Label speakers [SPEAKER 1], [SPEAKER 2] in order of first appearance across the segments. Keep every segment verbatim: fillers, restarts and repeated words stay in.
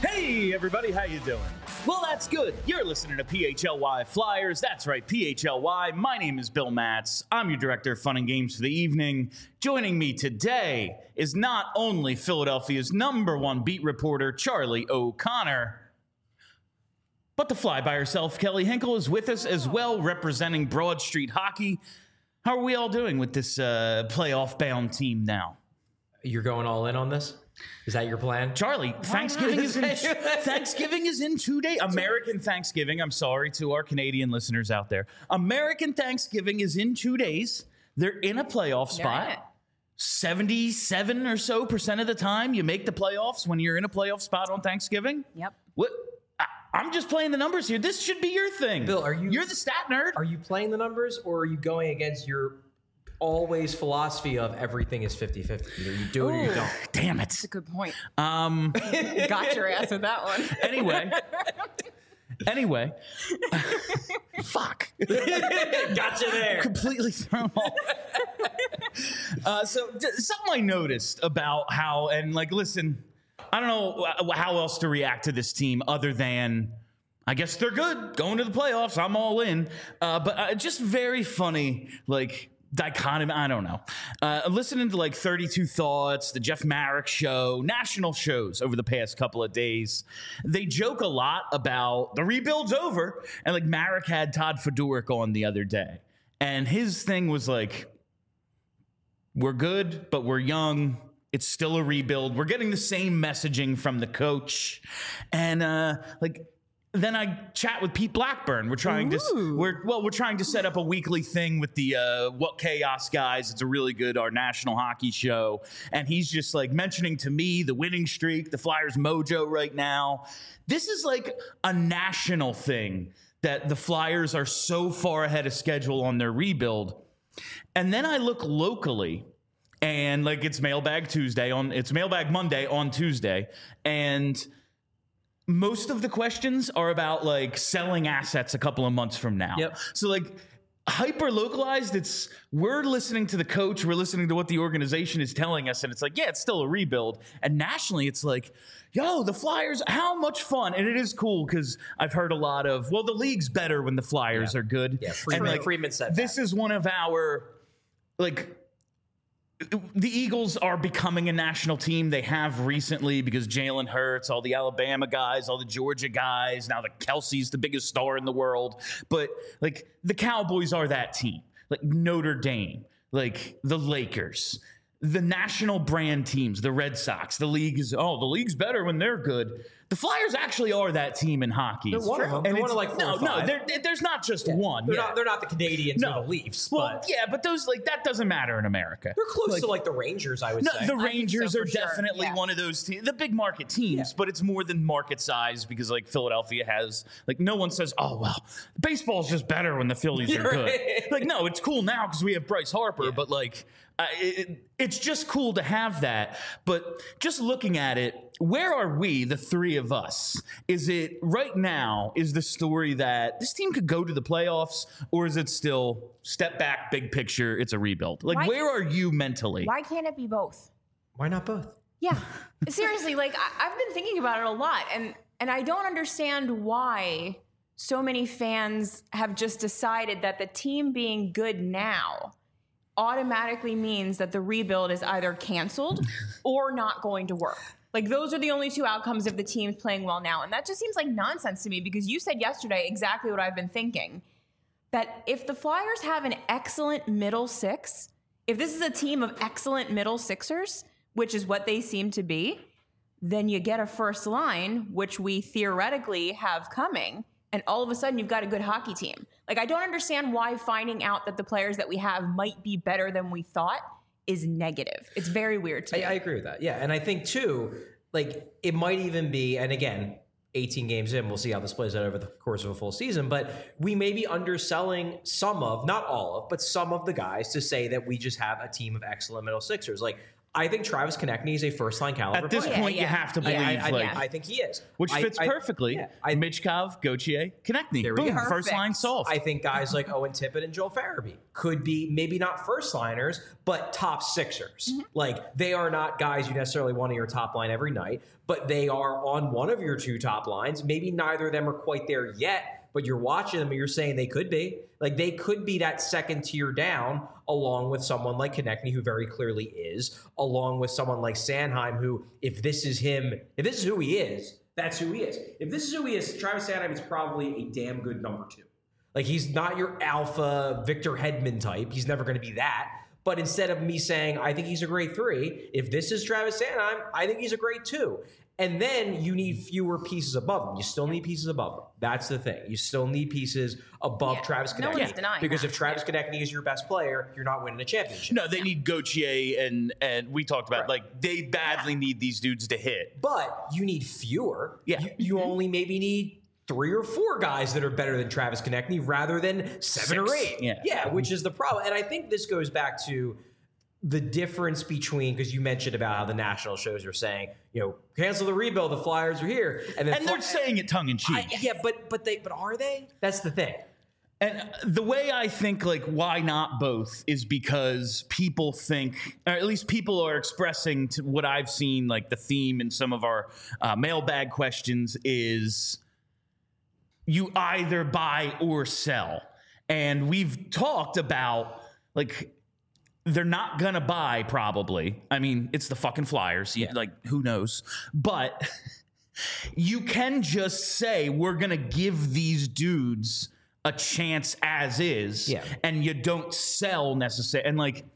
[SPEAKER 1] Hey everybody, how you doing? Well, that's good. You're listening to P H L Y Flyers. That's right, P H L Y. My name is Bill Matz. I'm your director of fun and games for the evening. Joining me today is not only Philadelphia's number one beat reporter, Charlie O'Connor, but the fly by herself, Kelly Hinkle, is with us as well, representing Broad Street Hockey. How are we all doing with this uh, playoff-bound team now?
[SPEAKER 2] You're going all in on this? Is that your plan?
[SPEAKER 1] Charlie, Thanksgiving is, in, Thanksgiving is in two days. American Thanksgiving. I'm sorry to our Canadian listeners out there. American Thanksgiving is in two days. They're in a playoff spot.
[SPEAKER 3] Yeah.
[SPEAKER 1] seventy-seven or so percent of the time you make the playoffs when you're in a playoff spot on Thanksgiving.
[SPEAKER 3] Yep.
[SPEAKER 1] What? I, I'm just playing the numbers here. This should be your thing.
[SPEAKER 2] Bill, are you...
[SPEAKER 1] You're the stat nerd.
[SPEAKER 2] Are you playing the numbers, or are you going against your always philosophy of everything is fifty-fifty? Either you do it or you don't.
[SPEAKER 1] Damn it.
[SPEAKER 3] That's a good point.
[SPEAKER 1] Um,
[SPEAKER 3] Got your ass with that one.
[SPEAKER 1] Anyway. Anyway. Fuck.
[SPEAKER 2] Gotcha there.
[SPEAKER 1] Completely thrown off. uh, so d- something I noticed about how, and like, listen, I don't know how else to react to this team other than, I guess they're good, going to the playoffs, I'm all in. Uh, but uh, just very funny, like, dichotomy, I don't know. Uh, listening to like thirty-two Thoughts, the Jeff Marek show, national shows over the past couple of days, they joke a lot about the rebuild's over. And like Marek had Todd Fedoruk on the other day. And his thing was like, we're good, but we're young. It's still a rebuild. We're getting the same messaging from the coach. And uh, like, then I chat with Pete Blackburn. We're trying Ooh. to we're well, we're trying to set up a weekly thing with the uh, What Chaos guys. It's a really good our national hockey show, and he's just like mentioning to me the winning streak, the Flyers mojo right now. This is like a national thing that the Flyers are so far ahead of schedule on their rebuild. And then I look locally, and like it's Mailbag Tuesday on it's Mailbag Monday on Tuesday, and most of the questions are about like selling assets a couple of months from now.
[SPEAKER 2] Yep.
[SPEAKER 1] So like hyper localized, it's we're listening to the coach, we're listening to what the organization is telling us, and it's like, yeah, it's still a rebuild. And nationally, it's like, yo, the Flyers, how much fun. And it is cool because I've heard a lot of, well, the league's better when the Flyers
[SPEAKER 2] yeah.
[SPEAKER 1] are good.
[SPEAKER 2] Yeah, Freeman,
[SPEAKER 1] and like,
[SPEAKER 2] Freeman said
[SPEAKER 1] this
[SPEAKER 2] that.
[SPEAKER 1] is one of our like the Eagles are becoming a national team. They have recently because Jalen Hurts, all the Alabama guys, all the Georgia guys. Now the Kelsey's the biggest star in the world. But like the Cowboys are that team. Like Notre Dame, like the Lakers, the national brand teams, the Red Sox. The league is, oh, the league's better when they're good. The Flyers actually are that team in hockey.
[SPEAKER 2] They're one of them.
[SPEAKER 1] And
[SPEAKER 2] they're one of like four
[SPEAKER 1] no,
[SPEAKER 2] or five.
[SPEAKER 1] no, there's not just
[SPEAKER 2] yeah.
[SPEAKER 1] one.
[SPEAKER 2] They're,
[SPEAKER 1] yeah.
[SPEAKER 2] not, they're not the Canadians
[SPEAKER 1] no.
[SPEAKER 2] or the Leafs.
[SPEAKER 1] Well,
[SPEAKER 2] but
[SPEAKER 1] yeah, but those like that doesn't matter in America.
[SPEAKER 2] They're close
[SPEAKER 1] like,
[SPEAKER 2] to like the Rangers, I would
[SPEAKER 1] no,
[SPEAKER 2] say.
[SPEAKER 1] the Rangers
[SPEAKER 3] so
[SPEAKER 1] are
[SPEAKER 3] sure.
[SPEAKER 1] definitely
[SPEAKER 3] yeah.
[SPEAKER 1] one of those teams, the big market teams,
[SPEAKER 2] Yeah.
[SPEAKER 1] but it's more than market size because like Philadelphia has like no one says, oh well, baseball's just better when the Phillies are good.
[SPEAKER 2] Right.
[SPEAKER 1] Like no, it's cool now because we have Bryce Harper,
[SPEAKER 2] Yeah.
[SPEAKER 1] but like uh, it, it's just cool to have that. But just looking at it, where are we, the three of us? Is it right now, is the story that this team could go to the playoffs, or is it still step back, big picture, it's a rebuild? Like,
[SPEAKER 3] Why-
[SPEAKER 1] where are you mentally?
[SPEAKER 3] Why can't it be both?
[SPEAKER 2] Why not both?
[SPEAKER 3] Yeah. Seriously, like I- I've been thinking about it a lot, and and I don't understand why so many fans have just decided that the team being good now automatically means that the rebuild is either canceled or not going to work. Like those are the only two outcomes if the team's playing well now. And that just seems like nonsense to me because you said yesterday exactly what I've been thinking. That if the Flyers have an excellent middle six, if this is a team of excellent middle sixers, which is what they seem to be, then you get a first line, which we theoretically have coming. And all of a sudden you've got a good hockey team. Like I don't understand why finding out that the players that we have might be better than we thought is negative. It's very weird to me.
[SPEAKER 2] I, I agree with that. Yeah. And I think too, like it might even be, and again, eighteen games in, we'll see how this plays out over the course of a full season, but we may be underselling some of, not all of, but some of the guys to say that we just have a team of excellent middle sixers. Like I think Travis Konechny is a first-line caliber
[SPEAKER 1] At this
[SPEAKER 2] player.
[SPEAKER 1] point,
[SPEAKER 3] Yeah,
[SPEAKER 1] you
[SPEAKER 3] yeah.
[SPEAKER 1] have to
[SPEAKER 2] I,
[SPEAKER 1] believe,
[SPEAKER 2] I, I,
[SPEAKER 1] like,
[SPEAKER 2] I think he is.
[SPEAKER 1] which
[SPEAKER 2] I-
[SPEAKER 1] fits
[SPEAKER 2] I-
[SPEAKER 1] perfectly.
[SPEAKER 2] yeah, I-
[SPEAKER 1] Michkov, Gauthier, Konechny.
[SPEAKER 2] There we
[SPEAKER 1] Boom,
[SPEAKER 2] go.
[SPEAKER 1] first line solved.
[SPEAKER 2] I think guys like Owen Tippett and Joel Farabee could be maybe not first liners, but top sixers. Mm-hmm. Like they are not guys you necessarily want on your top line every night, but they are on one of your two top lines. Maybe neither of them are quite there yet, but you're watching them and you're saying they could be. Like they could be that second tier down, along with someone like Konechny, who very clearly is, along with someone like Sanheim, who, if this is him, if this is who he is, that's who he is. If this is who he is, Travis Sanheim is probably a damn good number two. Like he's not your alpha Victor Hedman type. He's never going to be that. But instead of me saying, I think he's a great three, if this is Travis Sanheim, I think he's a great two. And then you need fewer pieces above him. You still need pieces above him. That's the thing. You still need pieces above
[SPEAKER 3] yeah,
[SPEAKER 2] Travis Konechny.
[SPEAKER 3] No one's denying
[SPEAKER 2] because
[SPEAKER 3] that.
[SPEAKER 2] if Travis yeah. Konechny is your best player, you're not winning a championship.
[SPEAKER 1] No, they need Gauthier, and and we talked about, right. like, they badly yeah. need these dudes to hit.
[SPEAKER 2] But you need fewer.
[SPEAKER 1] Yeah.
[SPEAKER 2] You, you only maybe need three or four guys that are better than Travis Konechny rather than seven Six. or eight.
[SPEAKER 1] Yeah.
[SPEAKER 2] yeah, which is the problem. And I think this goes back to the difference between, because you mentioned about how the national shows are saying, you know, cancel the rebuild, the Flyers are here, and then
[SPEAKER 1] and they're Fly- saying it tongue in cheek.
[SPEAKER 2] I, yeah, but but they but are they? That's the thing.
[SPEAKER 1] And the way I think, like, why not both is because people think, or at least people are expressing to what I've seen, like the theme in some of our uh, mailbag questions is you either buy or sell. And we've talked about, like, they're not going to buy, probably. I mean, it's the fucking Flyers. Yeah. Like, who knows? But you can just say, we're going to give these dudes a chance as is.
[SPEAKER 2] Yeah. And
[SPEAKER 1] you don't sell necessarily. And, like,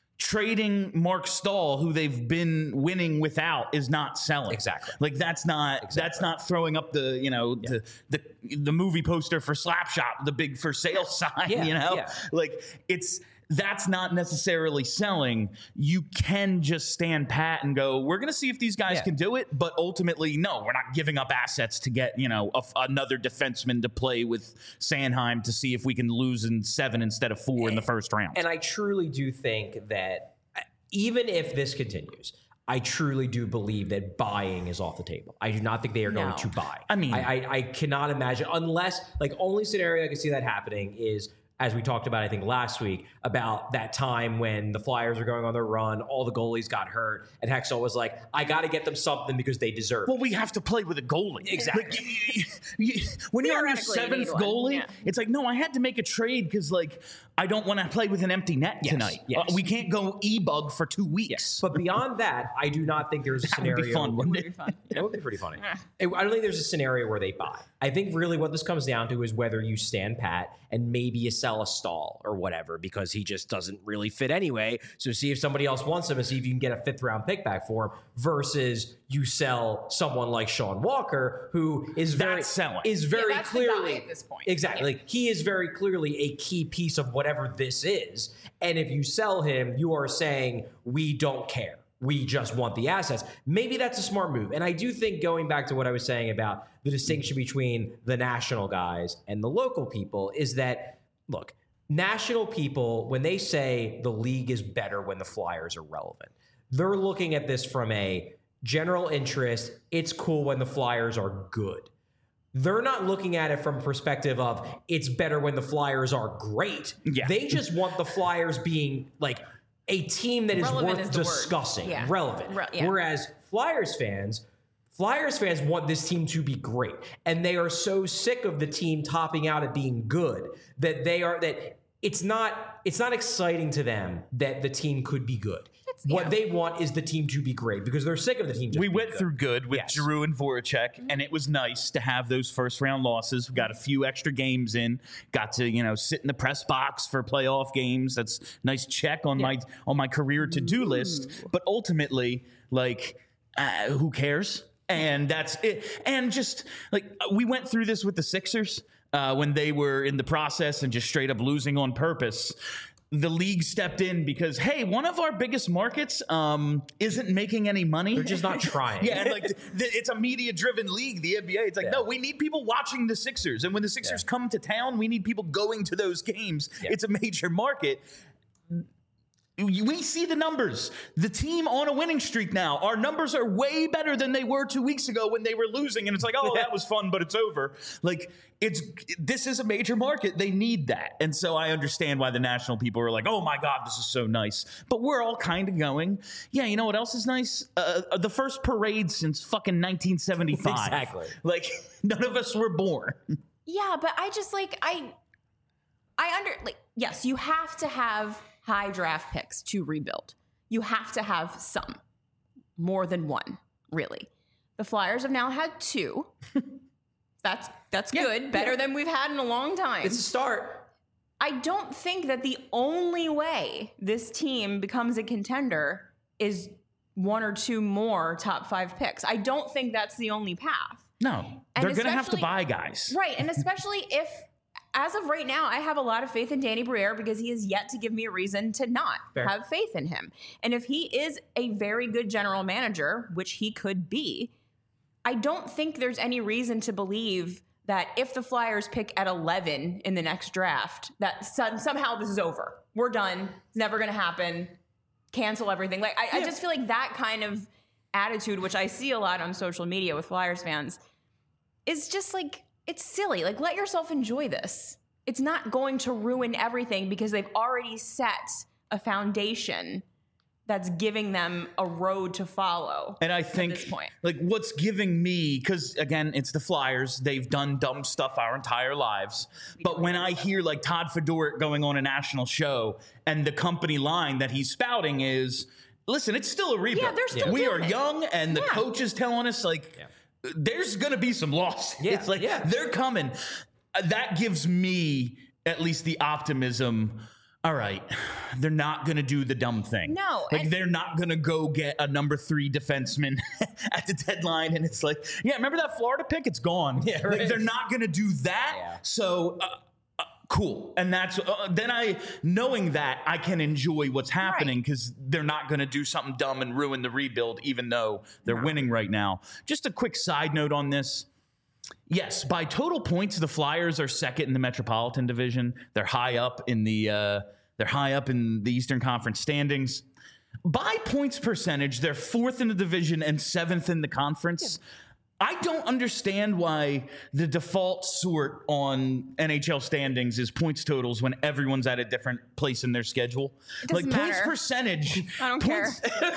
[SPEAKER 1] trading Mark Stahl, who they've been winning without, is not selling.
[SPEAKER 2] Exactly.
[SPEAKER 1] Like, that's not exactly. that's not throwing up the, you know, yeah. the, the the movie poster for Slapshot, the big for sale sign,
[SPEAKER 2] yeah.
[SPEAKER 1] you know?
[SPEAKER 2] Yeah.
[SPEAKER 1] Like, it's... That's not necessarily selling. You can just stand pat and go, we're going to see if these guys yeah. can do it. But ultimately, no, we're not giving up assets to get, you know, a, another defenseman to play with Sanheim to see if we can lose in seven instead of four and, in the first round.
[SPEAKER 2] And I truly do think that even if this continues, I truly do believe that buying is off the table. I do not think they are
[SPEAKER 3] no.
[SPEAKER 2] going to buy.
[SPEAKER 1] I mean,
[SPEAKER 2] I, I, I cannot imagine, unless, like, only scenario I can see that happening is, as we talked about, I think, last week, about that time when the Flyers were going on their run, all the goalies got hurt, and Hextall was like, I got to get them something because they deserve it.
[SPEAKER 1] Well, we have to play with a goalie.
[SPEAKER 2] Exactly.
[SPEAKER 1] Like, you, you, you, when you're on your seventh you goalie, yeah. it's like, no, I had to make a trade because, like, I don't want to play with an empty net
[SPEAKER 2] yes,
[SPEAKER 1] tonight.
[SPEAKER 2] Yes.
[SPEAKER 1] Uh, we can't go e-bug for two weeks.
[SPEAKER 2] Yes. But beyond that, I do not think there's a
[SPEAKER 1] that
[SPEAKER 2] scenario.
[SPEAKER 1] Would be fun, wouldn't it?
[SPEAKER 3] Would be fun.
[SPEAKER 2] It would be pretty funny. I don't think there's a scenario where they buy. I think really what this comes down to is whether you stand pat and maybe you sell a Stahl or whatever because he just doesn't really fit anyway. So see if somebody else wants him and see if you can get a fifth round pick back for him versus you sell someone like Sean Walker, who is very
[SPEAKER 1] that's selling.
[SPEAKER 2] is very
[SPEAKER 3] yeah, that's
[SPEAKER 2] clearly
[SPEAKER 3] the guy at this point.
[SPEAKER 2] Exactly.
[SPEAKER 3] Yeah.
[SPEAKER 2] Like he is very clearly a key piece of whatever this is. And if you sell him, you are saying we don't care. We just want the assets. Maybe that's a smart move. And I do think, going back to what I was saying about the distinction between the national guys and the local people, is that, look, national people, when they say the league is better when the Flyers are relevant, they're looking at this from a general interest. It's cool when the Flyers are good. They're not looking at it from a perspective of it's better when the Flyers are great.
[SPEAKER 1] Yeah.
[SPEAKER 2] They just want the Flyers being like a team that is
[SPEAKER 3] relevant
[SPEAKER 2] worth
[SPEAKER 3] is
[SPEAKER 2] discussing,
[SPEAKER 3] yeah.
[SPEAKER 2] relevant.
[SPEAKER 3] Re- yeah.
[SPEAKER 2] Whereas Flyers fans, Flyers fans want this team to be great, and they are so sick of the team topping out at being good that they are that it's not it's not exciting to them that the team could be good. It's, what yeah. they want is the team to be great because they're sick of the team. Just
[SPEAKER 1] we
[SPEAKER 2] being
[SPEAKER 1] went
[SPEAKER 2] good.
[SPEAKER 1] through good with
[SPEAKER 2] yes.
[SPEAKER 1] Giroux and Voracek, mm-hmm. and it was nice to have those first round losses. We got a few extra games in, got to you know sit in the press box for playoff games. That's a nice check on yeah. my on my career to do list. But ultimately, like, uh, who cares? And that's it. And just like we went through this with the Sixers uh, when they were in the process and just straight up losing on purpose. The league stepped in because, hey, one of our biggest markets um, isn't making any money.
[SPEAKER 2] They're just not trying.
[SPEAKER 1] yeah, and like the, the, it's a media-driven league, the N B A. It's like, yeah. no, we need people watching the Sixers. And when the Sixers yeah. come to town, we need people going to those games. Yeah. It's a major market. we see the numbers. The team on a winning streak now. Our numbers are way better than they were two weeks ago when they were losing. And it's like, oh, that was fun, but it's over. Like, it's this is a major market. They need that. And so I understand why the national people are like, oh, my God, this is so nice. But we're all kind of going, yeah, you know what else is nice? Uh, the first parade since fucking nineteen seventy-five.
[SPEAKER 2] Exactly.
[SPEAKER 1] Like, none of us were born.
[SPEAKER 3] Yeah, but I just like, I, I under, like, yes, you have to have high draft picks to rebuild. You have to have some, more than one, really. The Flyers have now had two. That's that's
[SPEAKER 2] Yeah,
[SPEAKER 3] good, better
[SPEAKER 2] yeah.
[SPEAKER 3] than we've had in a long time.
[SPEAKER 2] It's a start.
[SPEAKER 3] I don't think that the only way this team becomes a contender is one or two more top five picks. I don't think that's the only path.
[SPEAKER 1] No,
[SPEAKER 3] And
[SPEAKER 1] they're going to have to
[SPEAKER 3] especially-
[SPEAKER 1] buy guys.
[SPEAKER 3] Right, and especially if, as of right now, I have a lot of faith in Danny Briere because he has yet to give me a reason to not
[SPEAKER 2] Fair.
[SPEAKER 3] have faith in him. And if he is a very good general manager, which he could be, I don't think there's any reason to believe that if the Flyers pick at eleven in the next draft, that some, somehow this is over. We're done. It's never going to happen. Cancel everything. Like I, I
[SPEAKER 2] Yeah.
[SPEAKER 3] just feel like that kind of attitude, which I see a lot on social media with Flyers fans, is just like, it's silly. Like, let yourself enjoy this. It's not going to ruin everything because they've already set a foundation that's giving them a road to follow.
[SPEAKER 1] And I think,
[SPEAKER 3] this point.
[SPEAKER 1] like, what's giving me, because again, it's the Flyers. They've done dumb stuff our entire lives. But when I hear like Todd Fedoruk going on a national show and the company line that he's spouting is, listen, it's still a rebuild.
[SPEAKER 3] Yeah, they're still
[SPEAKER 1] we are
[SPEAKER 3] doing it.
[SPEAKER 1] young, and the
[SPEAKER 3] Yeah.
[SPEAKER 1] coach is telling us like, there's going to be some losses.
[SPEAKER 2] Yeah,
[SPEAKER 1] It's like
[SPEAKER 2] yeah.
[SPEAKER 1] they're coming. Uh, That gives me at least the optimism. All right, they're not going to do the dumb thing.
[SPEAKER 3] No,
[SPEAKER 1] like
[SPEAKER 3] and-
[SPEAKER 1] they're not going to go get a number three defenseman at the deadline, and it's like, yeah, remember that Florida pick? It's gone.
[SPEAKER 2] Yeah,
[SPEAKER 1] Like,
[SPEAKER 2] right.
[SPEAKER 1] they're not going to do that.
[SPEAKER 2] Yeah.
[SPEAKER 1] So. Uh, uh, Cool. And that's uh, then I, knowing that, I can enjoy what's happening because they're not going to do something dumb and ruin the rebuild, even though they're winning right now. Just a quick side note on this. Yes, by total points, the Flyers are second in the Metropolitan Division. They're high up in the uh, they're high up in the Eastern Conference standings. By points percentage, they're fourth in the division and seventh in the conference. I don't understand why the default sort on N H L standings is points totals when everyone's at a different place in their schedule.
[SPEAKER 3] doesn't
[SPEAKER 1] Like points
[SPEAKER 3] matter.
[SPEAKER 1] percentage.
[SPEAKER 3] I don't
[SPEAKER 1] points,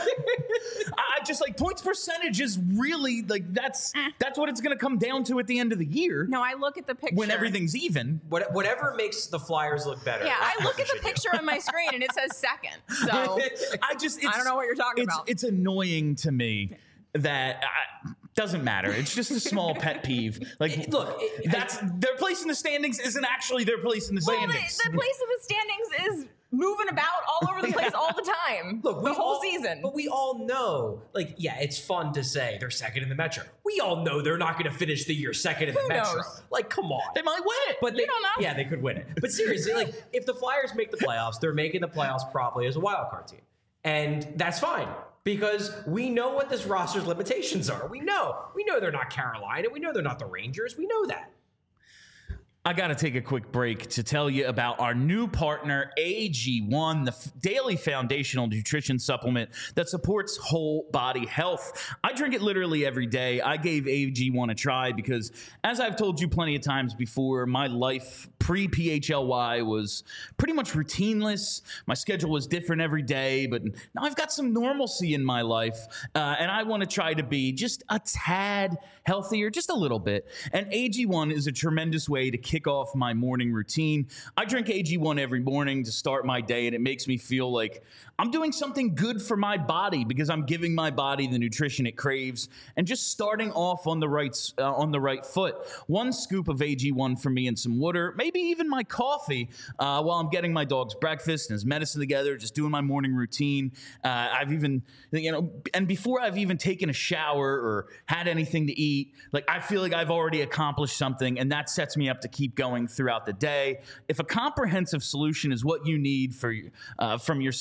[SPEAKER 1] I just like points percentage is really like that's that's what it's going to come down to at the end of the year
[SPEAKER 3] No, I look at the picture.
[SPEAKER 1] when everything's even.
[SPEAKER 2] What, whatever makes the Flyers look better.
[SPEAKER 3] Yeah, I
[SPEAKER 2] that's
[SPEAKER 3] look
[SPEAKER 2] what
[SPEAKER 3] at the
[SPEAKER 2] you should do.
[SPEAKER 3] picture on my screen and it says second. So
[SPEAKER 1] I just it's,
[SPEAKER 3] I don't know what you're talking
[SPEAKER 1] it's,
[SPEAKER 3] about.
[SPEAKER 1] It's annoying to me that I, doesn't matter. It's just a small pet peeve. Like,
[SPEAKER 2] Look, it-
[SPEAKER 1] that's their place in the standings isn't actually their place in the
[SPEAKER 3] well, the,
[SPEAKER 1] standings.
[SPEAKER 3] the place in the standings is moving about all over the place all the time.
[SPEAKER 2] Look,
[SPEAKER 3] the
[SPEAKER 2] we
[SPEAKER 3] whole
[SPEAKER 2] all-
[SPEAKER 3] season.
[SPEAKER 2] But we all know, like, yeah, it's fun to say they're second in the Metro. We all know they're not going to finish the year second in the
[SPEAKER 3] Who
[SPEAKER 2] Metro.
[SPEAKER 3] knows?
[SPEAKER 2] Like, come on.
[SPEAKER 1] They might win it.
[SPEAKER 2] But they,
[SPEAKER 3] don't know.
[SPEAKER 2] Yeah, they could win it. But seriously, like, if the Flyers make the playoffs, they're making the playoffs probably as a wild card team. And that's fine because we know what this roster's limitations are. We know. We know they're not Carolina. We know they're not the Rangers. We know that.
[SPEAKER 1] I got to take a quick break to tell you about our new partner, A G one, the f- daily foundational nutrition supplement that supports whole body health. I drink it literally every day. I gave A G one a try because, as I've told you plenty of times before, my life pre-P H L Y was pretty much routineless. My schedule was different every day, but now I've got some normalcy in my life, uh, and I want to try to be just a tad healthier, just a little bit. And A G one is a tremendous way to kick off my morning routine. I drink A G one every morning to start my day, and it makes me feel like I'm doing something good for my body because I'm giving my body the nutrition it craves and just starting off on the right uh, on the right foot. One scoop of A G one for me and some water, maybe even my coffee uh, while I'm getting my dog's breakfast and his medicine together, just doing my morning routine. Uh, I've even, you know, and before I've even taken a shower or had anything to eat, like I feel like I've already accomplished something, and that sets me up to keep going throughout the day. If a comprehensive solution is what you need for uh, from your supplement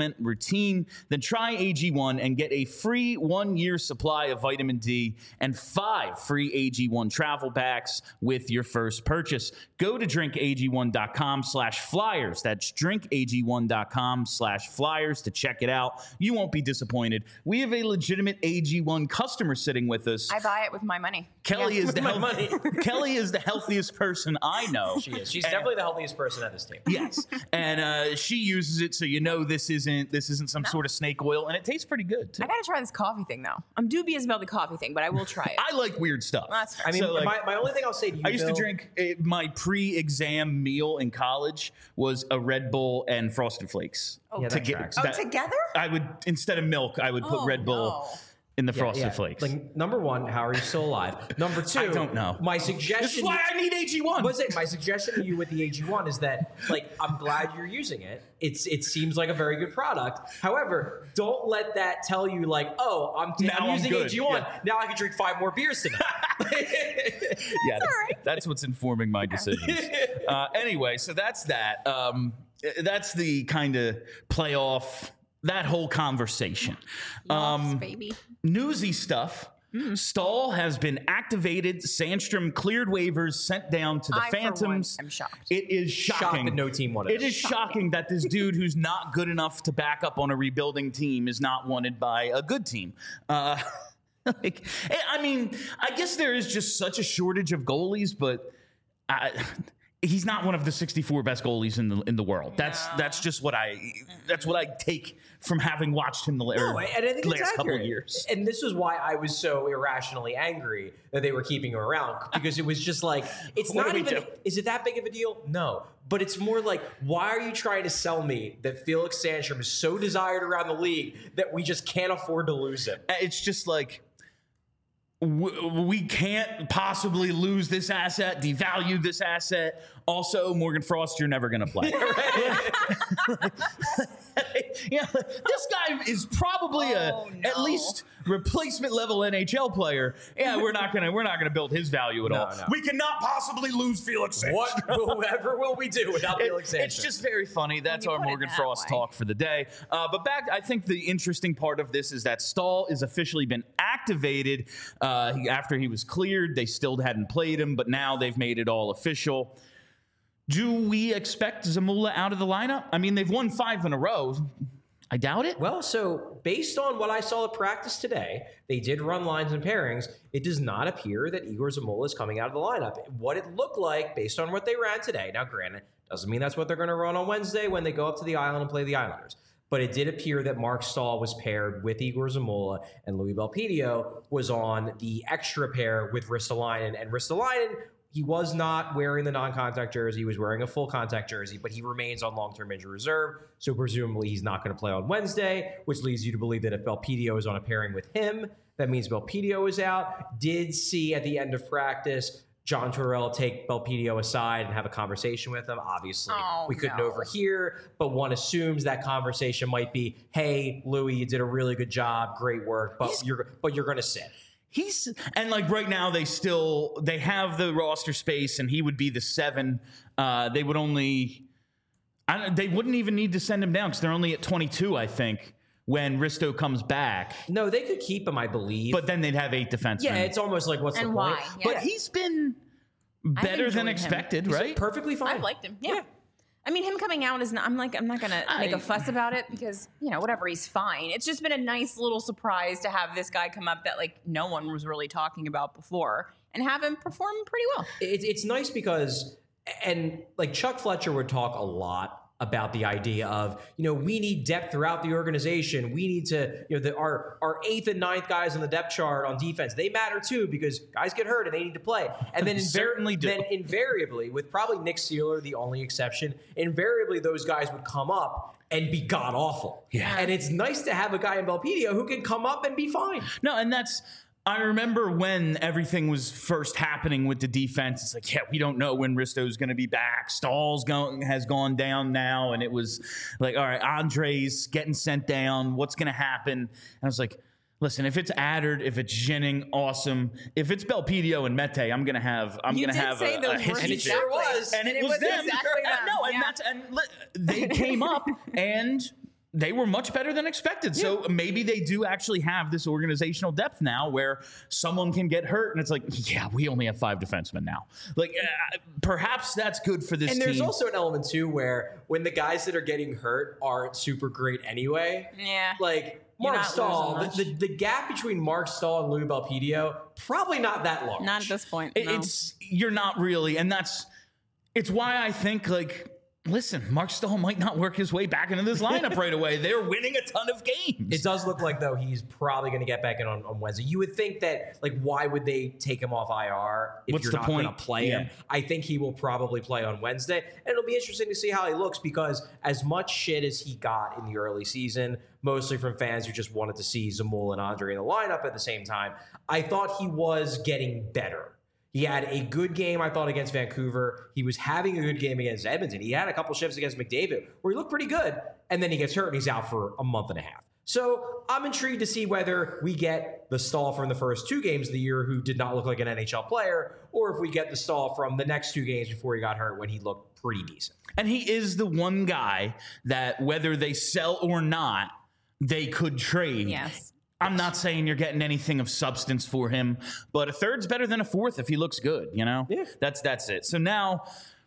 [SPEAKER 1] supplement routine, then try A G one and get a free one-year supply of vitamin D and five free A G one travel packs with your first purchase. Go to drinkag1.com slash flyers. That's drinkag1.com slash flyers to check it out. You won't be disappointed. We have a legitimate A G one customer sitting with us.
[SPEAKER 3] I buy it with my money.
[SPEAKER 1] Kelly
[SPEAKER 3] Yeah.
[SPEAKER 1] is the
[SPEAKER 2] my
[SPEAKER 1] health-
[SPEAKER 2] money.
[SPEAKER 1] Kelly is the healthiest person I know.
[SPEAKER 2] She is. She's
[SPEAKER 1] And-
[SPEAKER 2] definitely the healthiest person at this team.
[SPEAKER 1] Yes, and uh, she uses it, so you know this isn't this isn't some sort of snake oil, and it tastes pretty good too.
[SPEAKER 3] I gotta try this coffee thing though. I'm dubious about the coffee thing, but I will try it.
[SPEAKER 1] I like weird stuff.
[SPEAKER 3] That's fair.
[SPEAKER 2] I mean,
[SPEAKER 1] So, like,
[SPEAKER 2] my, my only thing I'll say to you,
[SPEAKER 1] I used
[SPEAKER 2] Bill,
[SPEAKER 1] to drink uh, my pre-exam meal in college was a Red Bull and Frosted Flakes.
[SPEAKER 3] Oh,
[SPEAKER 2] Yeah,
[SPEAKER 1] to
[SPEAKER 2] that
[SPEAKER 1] get
[SPEAKER 2] tracks.
[SPEAKER 3] oh,
[SPEAKER 1] that-
[SPEAKER 3] together?
[SPEAKER 1] I would instead of milk, I would put
[SPEAKER 3] Oh,
[SPEAKER 1] Red Bull
[SPEAKER 3] no.
[SPEAKER 1] in the
[SPEAKER 2] Yeah,
[SPEAKER 1] Frosted
[SPEAKER 2] yeah.
[SPEAKER 1] Flakes.
[SPEAKER 2] Like, number one, how are you still alive? Number two,
[SPEAKER 1] I don't know.
[SPEAKER 2] My
[SPEAKER 1] This is
[SPEAKER 2] suggestion.
[SPEAKER 1] why I need A G one.
[SPEAKER 2] Was it my suggestion to you with the A G one is that, like, I'm glad you're using it. It's it seems like a very good product. However, don't let that tell you like, oh, I'm, t-
[SPEAKER 1] Now
[SPEAKER 2] I'm
[SPEAKER 1] I'm
[SPEAKER 2] using
[SPEAKER 1] good.
[SPEAKER 2] A G one.
[SPEAKER 1] Yeah.
[SPEAKER 2] Now I can drink five more beers tonight.
[SPEAKER 1] Yeah, that's what's informing my decisions. uh, anyway, so that's that. Um, that's the kind of playoff, that whole conversation.
[SPEAKER 3] Yes,
[SPEAKER 1] Um,
[SPEAKER 3] baby.
[SPEAKER 1] newsy stuff. Stahl has been activated. Sandstrom cleared waivers, sent down to the
[SPEAKER 3] I, for one,
[SPEAKER 1] Phantoms.
[SPEAKER 3] am shocked.
[SPEAKER 1] It is
[SPEAKER 2] Shocked
[SPEAKER 1] shocking.
[SPEAKER 2] that no team wanted
[SPEAKER 1] It
[SPEAKER 2] him.
[SPEAKER 1] is shocking that this dude who's not good enough to back up on a rebuilding team is not wanted by a good team. Uh, like, I mean, I guess there is just such a shortage of goalies, but I, he's not one of the sixty-four best goalies in the in the world. That's
[SPEAKER 3] No.
[SPEAKER 1] that's just what I that's what I take from having watched him the la-
[SPEAKER 2] No, and I think
[SPEAKER 1] last
[SPEAKER 2] it's
[SPEAKER 1] couple
[SPEAKER 2] accurate.
[SPEAKER 1] of years.
[SPEAKER 2] And this is why I was so irrationally angry that they were keeping him around, because it was just like, it's
[SPEAKER 1] What
[SPEAKER 2] not
[SPEAKER 1] do we
[SPEAKER 2] even,
[SPEAKER 1] do?
[SPEAKER 2] is it that big of a deal? No. But it's more like, why are you trying to sell me that Felix Sandstrom is so desired around the league that we just can't afford to lose him?
[SPEAKER 1] It's just like, w- we can't possibly lose this asset, devalue this asset. Also, Morgan Frost, you're never going to play. Yeah, this guy is probably
[SPEAKER 3] Oh,
[SPEAKER 1] a
[SPEAKER 3] no.
[SPEAKER 1] at least replacement level N H L player. Yeah, we're not gonna we're not gonna build his value at
[SPEAKER 2] No,
[SPEAKER 1] all.
[SPEAKER 2] no.
[SPEAKER 1] We cannot possibly lose Felix Sandstrom.
[SPEAKER 2] What, whoever will we do without
[SPEAKER 1] It-
[SPEAKER 2] Felix Sandstrom?
[SPEAKER 1] it's just very funny. That's
[SPEAKER 3] you
[SPEAKER 1] our
[SPEAKER 3] put it
[SPEAKER 1] Morgan
[SPEAKER 3] that
[SPEAKER 1] Frost
[SPEAKER 3] way.
[SPEAKER 1] talk for the day. Uh, but back, I think the interesting part of this is that Stahl has officially been activated uh, he- after he was cleared. They still hadn't played him, but now they've made it all official. Do we expect Zamula out of the lineup? I mean, they've won five in a row. I doubt it.
[SPEAKER 2] Well, so based on what I saw at practice today, they did run lines and pairings. It does not appear that Igor Zamula is coming out of the lineup. What it looked like based on what they ran today, now granted, doesn't mean that's what they're going to run on Wednesday when they go up to the island and play the Islanders. But it did appear that Mark Stahl was paired with Igor Zamula, and Louis Belpedio was on the extra pair with Ristolainen. And Ristolainen, he was not wearing the non-contact jersey. He was wearing a full contact jersey, but he remains on long-term injury reserve. So presumably he's not going to play on Wednesday, which leads you to believe that if Belpedio is on a pairing with him, that means Belpedio is out. Did see at the end of practice John Tortorella take Belpedio aside and have a conversation with him. Obviously,
[SPEAKER 3] Oh,
[SPEAKER 2] we couldn't
[SPEAKER 3] no.
[SPEAKER 2] overhear, but one assumes that conversation might be, "Hey, Louis, you did a really good job, great work, but
[SPEAKER 1] He's-
[SPEAKER 2] you're but you're going to sit."
[SPEAKER 1] He's and like right now they still they have the roster space and he would be the seven. Uh, they would only I don't, they wouldn't even need to send him down because they're only at twenty-two, I think, when Risto comes back.
[SPEAKER 2] No, they could keep him, I believe.
[SPEAKER 1] But then they'd have eight defensemen.
[SPEAKER 2] yeah, it's almost like what's
[SPEAKER 3] And
[SPEAKER 2] the
[SPEAKER 3] why?
[SPEAKER 2] point?
[SPEAKER 3] Yeah.
[SPEAKER 1] But he's been better
[SPEAKER 3] enjoyed
[SPEAKER 1] than
[SPEAKER 3] him.
[SPEAKER 1] expected,
[SPEAKER 2] He's
[SPEAKER 1] right?
[SPEAKER 2] perfectly fine.
[SPEAKER 3] I've liked him. Yeah.
[SPEAKER 2] Yeah.
[SPEAKER 3] I mean, him coming out is not, I'm like, I'm not going to make
[SPEAKER 1] I-
[SPEAKER 3] a fuss about it because, you know, whatever, he's fine. It's just been a nice little surprise to have this guy come up that, like, no one was really talking about before and have him perform pretty well.
[SPEAKER 2] It, it's nice because, and like Chuck Fletcher would talk a lot about the idea of, you know, we need depth throughout the organization. We need to, you know, the, our our eighth and ninth guys on the depth chart on defense, they matter too because guys get hurt and they need to play. And then, invar-
[SPEAKER 1] Certainly do.
[SPEAKER 2] then invariably, with probably Nick Seeler the only exception, invariably those guys would come up and be god awful.
[SPEAKER 1] Yeah.
[SPEAKER 2] And it's nice to have a guy in Belpedio who can come up and be fine.
[SPEAKER 1] No, and that's I remember when everything was first happening with the defense. It's like, yeah, we don't know when Risto's going to be back. Stahl's going has gone down now, and it was like, all right, Andre's getting sent down. What's going to happen? And I was like, listen, if it's Addard, if it's Jennings, awesome. If it's Belpedio and Mete, I'm going to have I'm
[SPEAKER 3] You
[SPEAKER 1] going to
[SPEAKER 3] did
[SPEAKER 1] have
[SPEAKER 3] say
[SPEAKER 1] a,
[SPEAKER 3] those
[SPEAKER 1] a
[SPEAKER 3] words
[SPEAKER 1] history.
[SPEAKER 2] And it sure was.
[SPEAKER 1] And it,
[SPEAKER 3] It
[SPEAKER 1] was,
[SPEAKER 3] was
[SPEAKER 1] them.
[SPEAKER 3] exactly them,
[SPEAKER 1] No, and
[SPEAKER 3] yeah.
[SPEAKER 1] that's and li- they came up and they were much better than expected. Yeah. So maybe they do actually have this organizational depth now where someone can get hurt and it's like, yeah, we only have five defensemen now. Like, uh, perhaps that's good for this
[SPEAKER 2] and
[SPEAKER 1] team.
[SPEAKER 2] And there's also an element, too, where when the guys that are getting hurt aren't super great anyway.
[SPEAKER 3] Yeah.
[SPEAKER 2] Like, Mark Stahl, the, the, the gap between Mark Stahl and Louis Belpedio, probably not that large.
[SPEAKER 3] Not at this point.
[SPEAKER 1] It,
[SPEAKER 3] no.
[SPEAKER 1] It's, you're not really. And that's, it's why I think, like, listen, Mark Stahl might not work his way back into this lineup right away. They're winning a ton of games.
[SPEAKER 2] It does look like, though, he's probably going to get back in on, on Wednesday. You would think that, like, why would they take him off I R if
[SPEAKER 1] What's
[SPEAKER 2] you're
[SPEAKER 1] the
[SPEAKER 2] not
[SPEAKER 1] point?
[SPEAKER 2] going to play
[SPEAKER 1] Yeah.
[SPEAKER 2] him? I think he will probably play on Wednesday. And it'll be interesting to see how he looks because as much shit as he got in the early season, mostly from fans who just wanted to see Zamula and Andre in the lineup at the same time, I thought he was getting better. He had a good game, I thought, against Vancouver. He was having a good game against Edmonton. He had a couple shifts against McDavid where he looked pretty good, and then he gets hurt and he's out for a month and a half. So I'm intrigued to see whether we get the Stahl from the first two games of the year who did not look like an N H L player, or if we get the Stahl from the next two games before he got hurt when he looked pretty decent.
[SPEAKER 1] And he is the one guy that whether they sell or not, they could trade.
[SPEAKER 3] Yes.
[SPEAKER 1] I'm not saying you're getting anything of substance for him, but a third's better than a fourth if he looks good, you know?
[SPEAKER 2] Yeah.
[SPEAKER 1] That's that's it. So now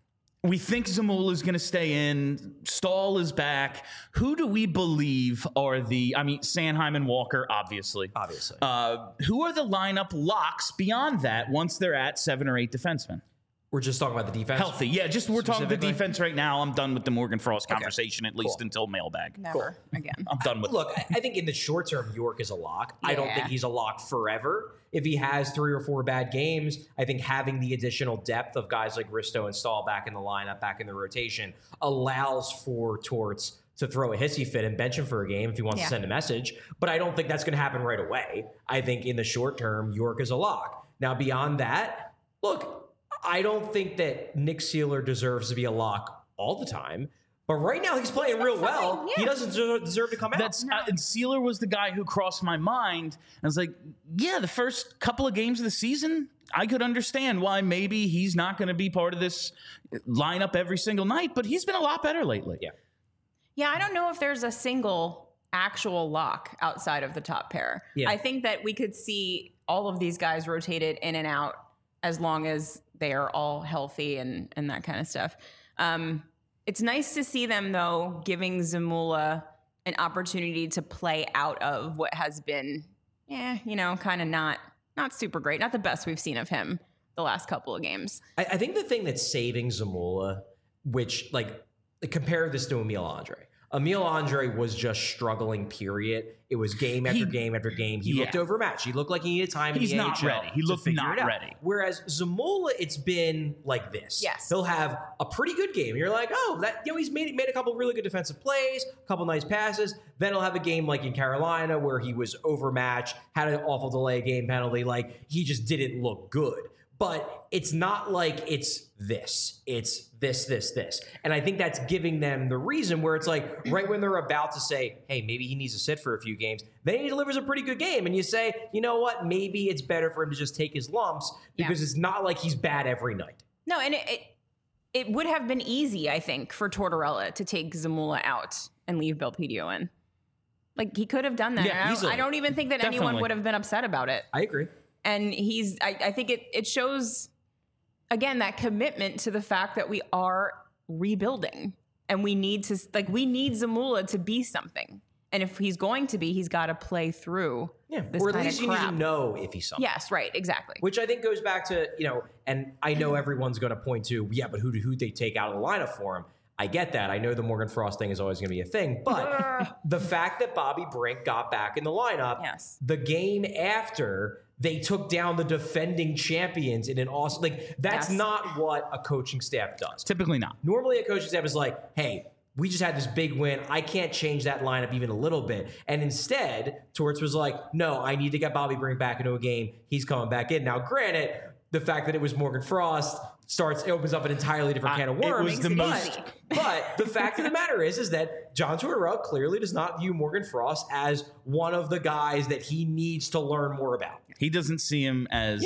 [SPEAKER 1] we think Zamula is going to stay in. Stahl is back. Who do we believe are the, I mean, Sanheim and Walker, obviously.
[SPEAKER 2] Obviously.
[SPEAKER 1] Uh, who are the lineup locks beyond that once they're at seven or eight defensemen?
[SPEAKER 2] We're just talking about the defense.
[SPEAKER 1] Healthy. Yeah, just we're talking the
[SPEAKER 2] Specifically?
[SPEAKER 1] defense right now. I'm done with the Morgan Frost conversation, at least
[SPEAKER 2] Cool.
[SPEAKER 1] until mailbag.
[SPEAKER 3] Never again.
[SPEAKER 1] I'm done with
[SPEAKER 2] Look, I I think in the short term, York is a lock. I don't
[SPEAKER 3] Yeah.
[SPEAKER 2] think he's a lock forever. If he has three or four bad games, I think having the additional depth of guys like Risto and Stahl back in the lineup, back in the rotation, allows for Torts to throw a hissy fit and bench him for a game if he wants
[SPEAKER 3] Yeah.
[SPEAKER 2] to send a message. But I don't think that's going to happen right away. I think in the short term, York is a lock. Now, beyond that, look, I don't think that Nick Seeler deserves to be a lock all the time. But right now, he's playing real well.
[SPEAKER 3] fine, yeah.
[SPEAKER 2] He doesn't deserve- deserve to come out.
[SPEAKER 1] That's uh, and Sealer was the guy who crossed my mind. I was like, yeah, the first couple of games of the season, I could understand why maybe he's not going to be part of this lineup every single night, but he's been a lot better lately.
[SPEAKER 2] Yeah.
[SPEAKER 3] Yeah, I don't know if there's a single actual lock outside of the top pair.
[SPEAKER 2] Yeah.
[SPEAKER 3] I think that we could see all of these guys rotated in and out as long as they are all healthy and, and that kind of stuff. Um, it's nice to see them, though, giving Zamula an opportunity to play out of what has been, eh, you know, kind of not not super great. Not the best we've seen of him the last couple of games.
[SPEAKER 2] I, I think the thing that's saving Zamula, which, like, compare this to Emil Andre. Emil Andre was just struggling, period. It was game after
[SPEAKER 1] He-
[SPEAKER 2] game after game. He
[SPEAKER 1] yeah.
[SPEAKER 2] looked overmatched. He looked like he needed time
[SPEAKER 1] He's
[SPEAKER 2] in the
[SPEAKER 1] not
[SPEAKER 2] A H L
[SPEAKER 1] ready. He
[SPEAKER 2] to
[SPEAKER 1] looked
[SPEAKER 2] figure
[SPEAKER 1] not
[SPEAKER 2] it out.
[SPEAKER 1] ready.
[SPEAKER 2] Whereas Zamula, it's been like this.
[SPEAKER 3] Yes.
[SPEAKER 2] He'll have a pretty good game. You're like, oh, that, you know, he's made made a couple really good defensive plays, a couple nice passes. Then he'll have a game like in Carolina where he was overmatched, had an awful delay game penalty. Like, he just didn't look good. But it's not like it's this. It's this, this, this. And I think that's giving them the reason where it's like right when they're about to say, hey, maybe he needs to sit for a few games, then he delivers a pretty good game. And you say, you know what? Maybe it's better for him to just take his lumps because
[SPEAKER 3] Yeah.
[SPEAKER 2] it's not like he's bad every night.
[SPEAKER 3] No, and it, it it would have been easy, I think, for Tortorella to take Zamula out and leave Belpedio in. Like, he could have done that.
[SPEAKER 1] Yeah,
[SPEAKER 3] And I, don't,
[SPEAKER 1] easily.
[SPEAKER 3] I don't even think that anyone
[SPEAKER 1] Definitely.
[SPEAKER 3] would have been upset about it.
[SPEAKER 2] I agree.
[SPEAKER 3] And he's, I, I think it, it shows, again, that commitment to the fact that we are rebuilding and we need to, like, we need Zamula to be something. And if he's going to be, he's got to play through
[SPEAKER 2] Yeah.
[SPEAKER 3] this
[SPEAKER 2] Or at
[SPEAKER 3] kind
[SPEAKER 2] least
[SPEAKER 3] of
[SPEAKER 2] you need
[SPEAKER 3] crap.
[SPEAKER 2] to know if he's something.
[SPEAKER 3] Yes, right, exactly.
[SPEAKER 2] Which I think goes back to, you know, and I know everyone's going to point to, yeah, but who do who they take out of the lineup for him? I get that. I know the Morgan Frost thing is always going to be a thing, but the fact that Bobby Brink got back in the lineup,
[SPEAKER 3] Yes.
[SPEAKER 2] the game after they took down the defending champions in an awesome, like that's
[SPEAKER 3] Yes.
[SPEAKER 2] not what a coaching staff does.
[SPEAKER 1] Typically not.
[SPEAKER 2] Normally, a coaching staff is like, hey, we just had this big win. I can't change that lineup even a little bit. And instead, Torts was like, no, I need to get Bobby Brink back into a game. He's coming back in. Now, granted, the fact that it was Morgan Frost starts, it opens up an entirely different
[SPEAKER 1] I-
[SPEAKER 2] can of
[SPEAKER 1] it
[SPEAKER 2] worms.
[SPEAKER 1] was the
[SPEAKER 3] Makes it
[SPEAKER 1] most-
[SPEAKER 3] easy.
[SPEAKER 2] But the fact of the matter is, is that John Tortorella clearly does not view Morgan Frost as one of the guys that he needs to learn more about.
[SPEAKER 1] He doesn't see him as
[SPEAKER 2] Yeah.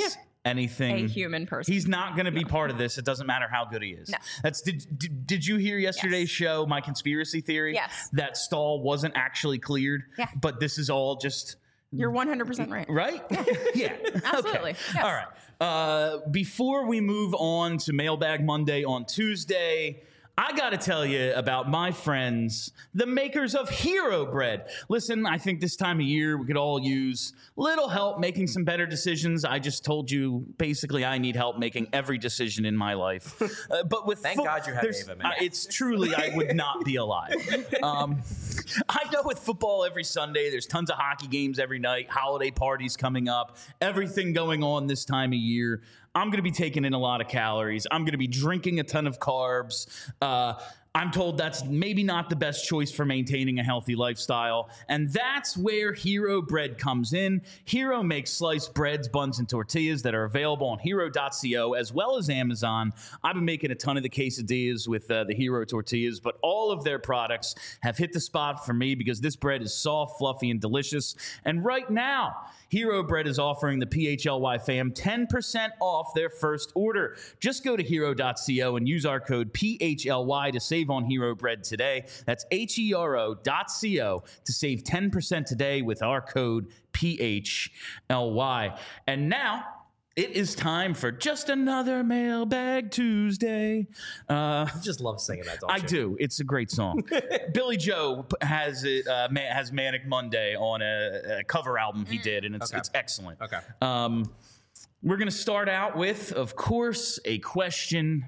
[SPEAKER 1] anything.
[SPEAKER 3] A human person.
[SPEAKER 1] He's not going to be part of this. It doesn't matter how good he is.
[SPEAKER 3] No.
[SPEAKER 1] That's did, did did you hear yesterday's
[SPEAKER 3] Yes.
[SPEAKER 1] show? My conspiracy theory.
[SPEAKER 3] Yes.
[SPEAKER 1] That Stahl wasn't actually cleared.
[SPEAKER 3] Yeah.
[SPEAKER 1] But this is all just.
[SPEAKER 3] You're one hundred percent right.
[SPEAKER 1] Right? Yeah.
[SPEAKER 3] Absolutely.
[SPEAKER 1] Okay.
[SPEAKER 3] Yes.
[SPEAKER 1] All right. Uh, before we move on to Mailbag Monday on Tuesday, I got to tell you about my friends, the makers of Hero Bread. Listen, I think this time of year we could all use little help making some better decisions. I just told you, basically, I need help making every decision in my life. Uh, but with
[SPEAKER 2] Thank
[SPEAKER 1] fo-
[SPEAKER 2] God you have
[SPEAKER 1] there's-
[SPEAKER 2] Ava, man.
[SPEAKER 1] uh, it's truly, I would not be alive. Um, I know with football every Sunday, there's tons of hockey games every night, holiday parties coming up, everything going on this time of year. I'm going to be taking in a lot of calories. I'm going to be drinking a ton of carbs. Uh, I'm told that's maybe not the best choice for maintaining a healthy lifestyle. And that's where Hero Bread comes in. Hero makes sliced breads, buns, and tortillas that are available on hero dot co as well as Amazon. I've been making a ton of the quesadillas with uh, the Hero tortillas, but all of their products have hit the spot for me because this bread is soft, fluffy, and delicious. And right now, Hero Bread is offering the P H L Y fam ten percent off their first order. Just go to hero dot co and use our code P H L Y to save on Hero Bread today. That's H E R O dot co to save ten percent today with our code P H L Y. And now, it is time for just another Mailbag Tuesday. Uh,
[SPEAKER 2] I just love singing that, don't
[SPEAKER 1] I
[SPEAKER 2] you?
[SPEAKER 1] do. It's a great song. Billy Joe p- has it. Uh, ma- has Manic Monday on a, a cover album he did, and it's
[SPEAKER 2] Okay.
[SPEAKER 1] it's excellent.
[SPEAKER 2] Okay.
[SPEAKER 1] Um, we're gonna start out with, of course, a question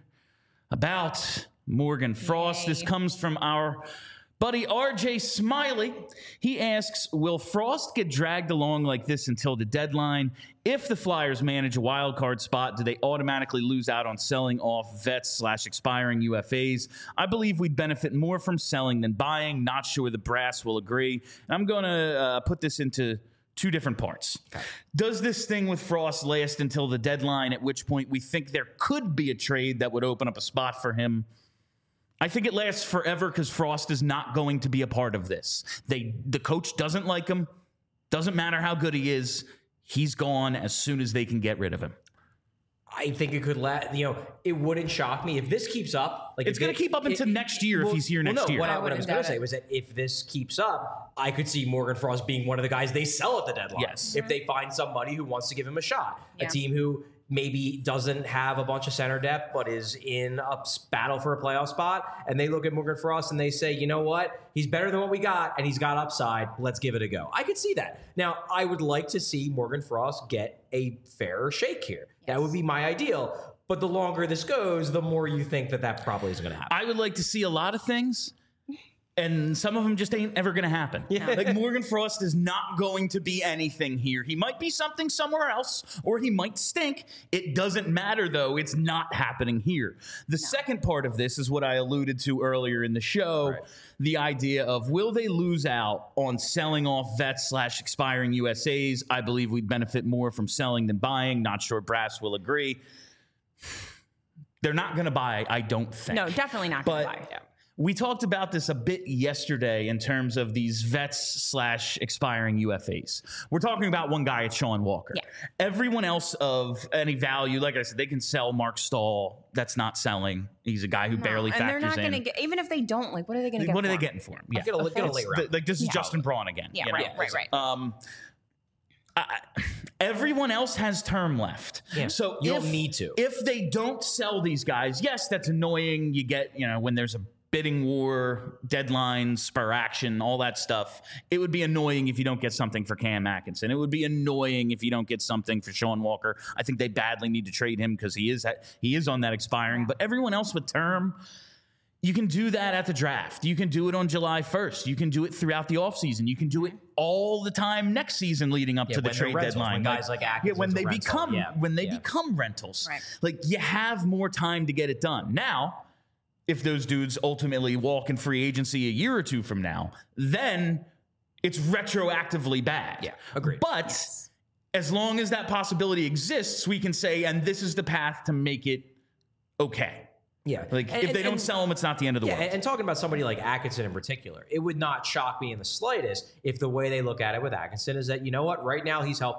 [SPEAKER 1] about Morgan Frost.
[SPEAKER 3] Yay.
[SPEAKER 1] This comes from our buddy R J Smiley. He asks, will Frost get dragged along like this until the deadline? If the Flyers manage a wild card spot, do they automatically lose out on selling off vets slash expiring U F As? I believe we'd benefit more from selling than buying. Not sure the brass will agree. And I'm going to uh, put this into two different parts. Okay. Does this thing with Frost last until the deadline, at which point we think there could be a trade that would open up a spot for him? I think it lasts forever because Frost is not going to be a part of this. They, the coach doesn't like him. Doesn't matter how good he is. He's gone as soon as they can get rid of him.
[SPEAKER 2] I think it could let you know. It wouldn't shock me if this keeps up. Like
[SPEAKER 1] It's
[SPEAKER 2] if
[SPEAKER 1] going
[SPEAKER 2] it-
[SPEAKER 1] to keep up into
[SPEAKER 2] it-
[SPEAKER 1] next year
[SPEAKER 2] well,
[SPEAKER 1] if he's here
[SPEAKER 2] well,
[SPEAKER 1] next
[SPEAKER 2] no,
[SPEAKER 1] year.
[SPEAKER 2] What I,
[SPEAKER 3] I
[SPEAKER 2] what I was
[SPEAKER 3] wouldn't
[SPEAKER 2] going to
[SPEAKER 3] doubt
[SPEAKER 2] say
[SPEAKER 3] it.
[SPEAKER 2] was that if this keeps up, I could see Morgan Frost being one of the guys they sell at the deadline.
[SPEAKER 1] Yes.
[SPEAKER 2] If they find somebody who wants to give him a shot,
[SPEAKER 3] Yeah.
[SPEAKER 2] a team who maybe doesn't have a bunch of center depth but is in a s- battle for a playoff spot, and they look at Morgan Frost and they say, you know what, he's better than what we got, and he's got upside. Let's give it a go. I could see that. Now, I would like to see Morgan Frost get a fairer shake here. That would be my ideal. But the longer this goes, the more you think that that probably isn't going to happen.
[SPEAKER 1] I would like to see a lot of things, and some of them just ain't ever going to happen. Like Morgan Frost is not going to be anything here. He might be something somewhere else, or he might stink. It doesn't matter, though. It's not happening here. The second part of this is what I alluded to earlier in the show.
[SPEAKER 2] Right.
[SPEAKER 1] The idea of will they lose out on selling off vets slash expiring U S As? I believe we'd benefit more from selling than buying. Not sure Brass will agree. They're not going to buy, I don't think.
[SPEAKER 3] No, definitely not going
[SPEAKER 1] But
[SPEAKER 3] to buy. Yeah.
[SPEAKER 1] we talked about this a bit yesterday in terms of these vets slash expiring U F As. We're talking about one guy, it's Sean Walker.
[SPEAKER 3] Yeah.
[SPEAKER 1] Everyone else of any value, like I said, they can sell Mark Stahl. That's not selling. He's a guy who barely
[SPEAKER 3] and they're
[SPEAKER 1] factors
[SPEAKER 3] not
[SPEAKER 1] in.
[SPEAKER 3] going to get, even if they don't, like, what are they going to get
[SPEAKER 1] What
[SPEAKER 3] for
[SPEAKER 1] are they
[SPEAKER 3] him?
[SPEAKER 1] getting for him? Yeah.
[SPEAKER 2] Get a, get a
[SPEAKER 1] It's
[SPEAKER 2] late
[SPEAKER 1] the-
[SPEAKER 2] round.
[SPEAKER 1] like this is
[SPEAKER 3] Yeah.
[SPEAKER 1] Justin Braun again.
[SPEAKER 3] Yeah,
[SPEAKER 1] you
[SPEAKER 3] right,
[SPEAKER 1] know?
[SPEAKER 3] right, right.
[SPEAKER 1] Um, I, everyone else has term left.
[SPEAKER 2] Yeah.
[SPEAKER 1] So
[SPEAKER 2] You
[SPEAKER 1] if,
[SPEAKER 2] don't need to.
[SPEAKER 1] If they don't sell these guys, yes, that's annoying. You get, you know, when there's a bidding war, deadlines, spur action, all that stuff. It would be annoying if you don't get something for Cam Atkinson. It would be annoying if you don't get something for Sean Walker. I think they badly need to trade him because he is he is on that expiring. But everyone else with term, you can do that at the draft. You can do it on July first. You can do it throughout the offseason. You can do it all the time next season leading up
[SPEAKER 2] Yeah,
[SPEAKER 1] to the
[SPEAKER 2] when they're
[SPEAKER 1] trade
[SPEAKER 2] rentals,
[SPEAKER 1] deadline.
[SPEAKER 2] when guys like Atkinson's
[SPEAKER 1] yeah, when
[SPEAKER 2] a
[SPEAKER 1] they
[SPEAKER 2] rental.
[SPEAKER 1] become
[SPEAKER 2] Yeah,
[SPEAKER 1] when they
[SPEAKER 2] yeah.
[SPEAKER 1] become rentals.
[SPEAKER 3] Right.
[SPEAKER 1] Like you have more time to get it done. Now, if those dudes ultimately walk in free agency a year or two from now, then it's retroactively bad.
[SPEAKER 2] Yeah, agreed.
[SPEAKER 1] But
[SPEAKER 3] Yes.
[SPEAKER 1] as long as that possibility exists, we can say, and this is the path to make it okay.
[SPEAKER 2] Yeah.
[SPEAKER 1] Like
[SPEAKER 2] And-
[SPEAKER 1] if they
[SPEAKER 2] and-
[SPEAKER 1] don't
[SPEAKER 2] and-
[SPEAKER 1] sell them, it's not the end of the
[SPEAKER 2] Yeah,
[SPEAKER 1] world.
[SPEAKER 2] and, and talking about somebody like Atkinson in particular, it would not shock me in the slightest if the way they look at it with Atkinson is that, you know what, right now he's helping.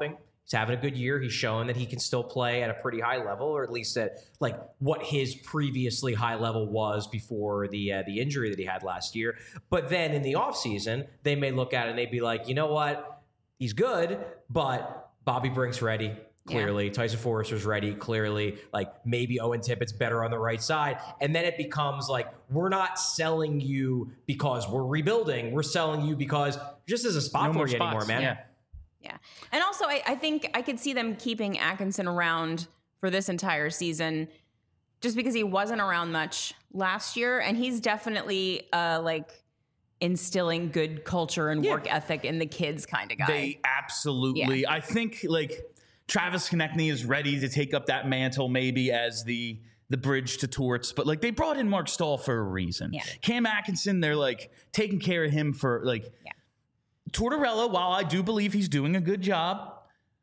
[SPEAKER 2] He's having a good year. He's showing that he can still play at a pretty high level, or at least at like what his previously high level was before the uh, the injury that he had last year. But then in the offseason, they may look at it and they'd be like, you know what? He's good, but Bobby Brink's ready. Clearly, yeah. Tyson Forrester's ready. Clearly, like maybe Owen Tippett's better on the right side. And then it becomes like, we're not selling you because we're rebuilding. We're selling you because just as a spot
[SPEAKER 1] no
[SPEAKER 2] for you
[SPEAKER 1] spots.
[SPEAKER 2] anymore, man.
[SPEAKER 1] Yeah.
[SPEAKER 3] Yeah. And also, I, I think I could see them keeping Atkinson around for this entire season just because he wasn't around much last year. And he's definitely uh, like instilling good culture and
[SPEAKER 2] Yeah.
[SPEAKER 3] work ethic in the kids kind of guy.
[SPEAKER 1] They absolutely.
[SPEAKER 3] Yeah.
[SPEAKER 1] I think like Travis Konechny is ready to take up that mantle maybe as the the bridge to Torts, but like they brought in Mark Stahl for a reason.
[SPEAKER 3] Yeah.
[SPEAKER 1] Cam Atkinson, they're like taking care of him for like
[SPEAKER 3] Yeah.
[SPEAKER 1] Tortorella, while I do believe he's doing a good job,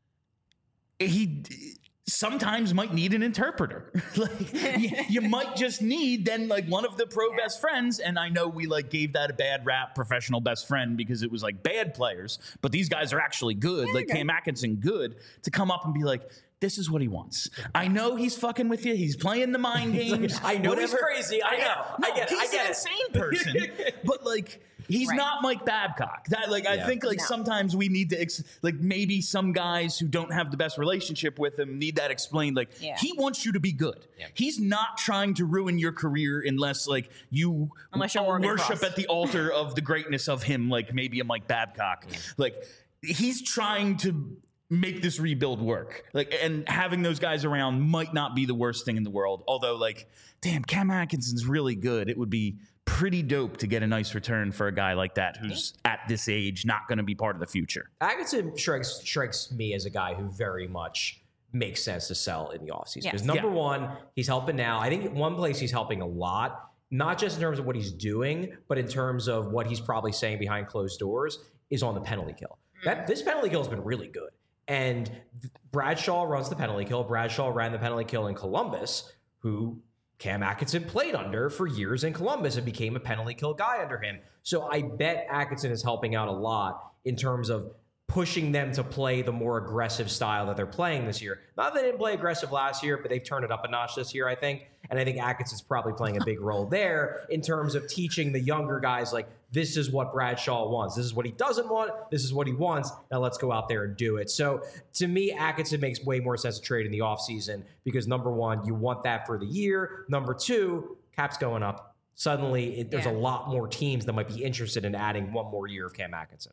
[SPEAKER 1] he sometimes might need an interpreter. Like you, you might just need then like one of the pro
[SPEAKER 3] Yeah.
[SPEAKER 1] best friends. And I know we like gave that a bad rap, professional best friend, because it was like bad players, but these guys are actually good. Like Cam Atkinson, good to come up and be like, this is what he wants. I know he's fucking with you. He's playing the mind games.
[SPEAKER 2] I know
[SPEAKER 1] whatever.
[SPEAKER 2] he's crazy. I know.
[SPEAKER 1] No,
[SPEAKER 2] I get it.
[SPEAKER 1] he's
[SPEAKER 2] I get
[SPEAKER 1] an
[SPEAKER 2] it.
[SPEAKER 1] insane person. But like, he's
[SPEAKER 3] Right.
[SPEAKER 1] not Mike Babcock. That like, I
[SPEAKER 2] Yeah.
[SPEAKER 1] think like
[SPEAKER 3] No.
[SPEAKER 1] sometimes we need to ex- like maybe some guys who don't have the best relationship with him need that explained. Like
[SPEAKER 3] Yeah.
[SPEAKER 1] he wants you to be good.
[SPEAKER 2] Yeah.
[SPEAKER 1] He's not trying to ruin your career unless like you
[SPEAKER 3] Unless you're Morgan
[SPEAKER 1] worship
[SPEAKER 3] Cross.
[SPEAKER 1] at the altar of the greatness of him. Like maybe a Mike Babcock. Like he's trying to make this rebuild work. Like, and having those guys around might not be the worst thing in the world. Although, like, damn, Cam Atkinson's really good. It would be pretty dope to get a nice return for a guy like that who's at this age not going to be part of the future.
[SPEAKER 2] Atkinson strikes, strikes me as a guy who very much makes sense to sell in the offseason.
[SPEAKER 3] Yeah.
[SPEAKER 2] Because number
[SPEAKER 1] Yeah.
[SPEAKER 2] one, he's helping now. I think one place he's helping a lot, not just in terms of what he's doing, but in terms of what he's probably saying behind closed doors, is on the penalty kill. That this penalty kill has been really good. And Bradshaw runs the penalty kill. Bradshaw ran the penalty kill in Columbus, who Cam Atkinson played under for years in Columbus and became a penalty kill guy under him. So I bet Atkinson is helping out a lot in terms of pushing them to play the more aggressive style that they're playing this year. Not that they didn't play aggressive last year, but they've turned it up a notch this year, I think. And I think Atkinson's probably playing a big role there in terms of teaching the younger guys, like, this is what Bradshaw wants. This is what he doesn't want. This is what he wants. Now let's go out there and do it. So to me, Atkinson makes way more sense to trade in the offseason because, number one, you want that for the year. Number two, cap's going up. Suddenly, it, there's
[SPEAKER 3] Yeah.
[SPEAKER 2] a lot more teams that might be interested in adding one more year of Cam Atkinson.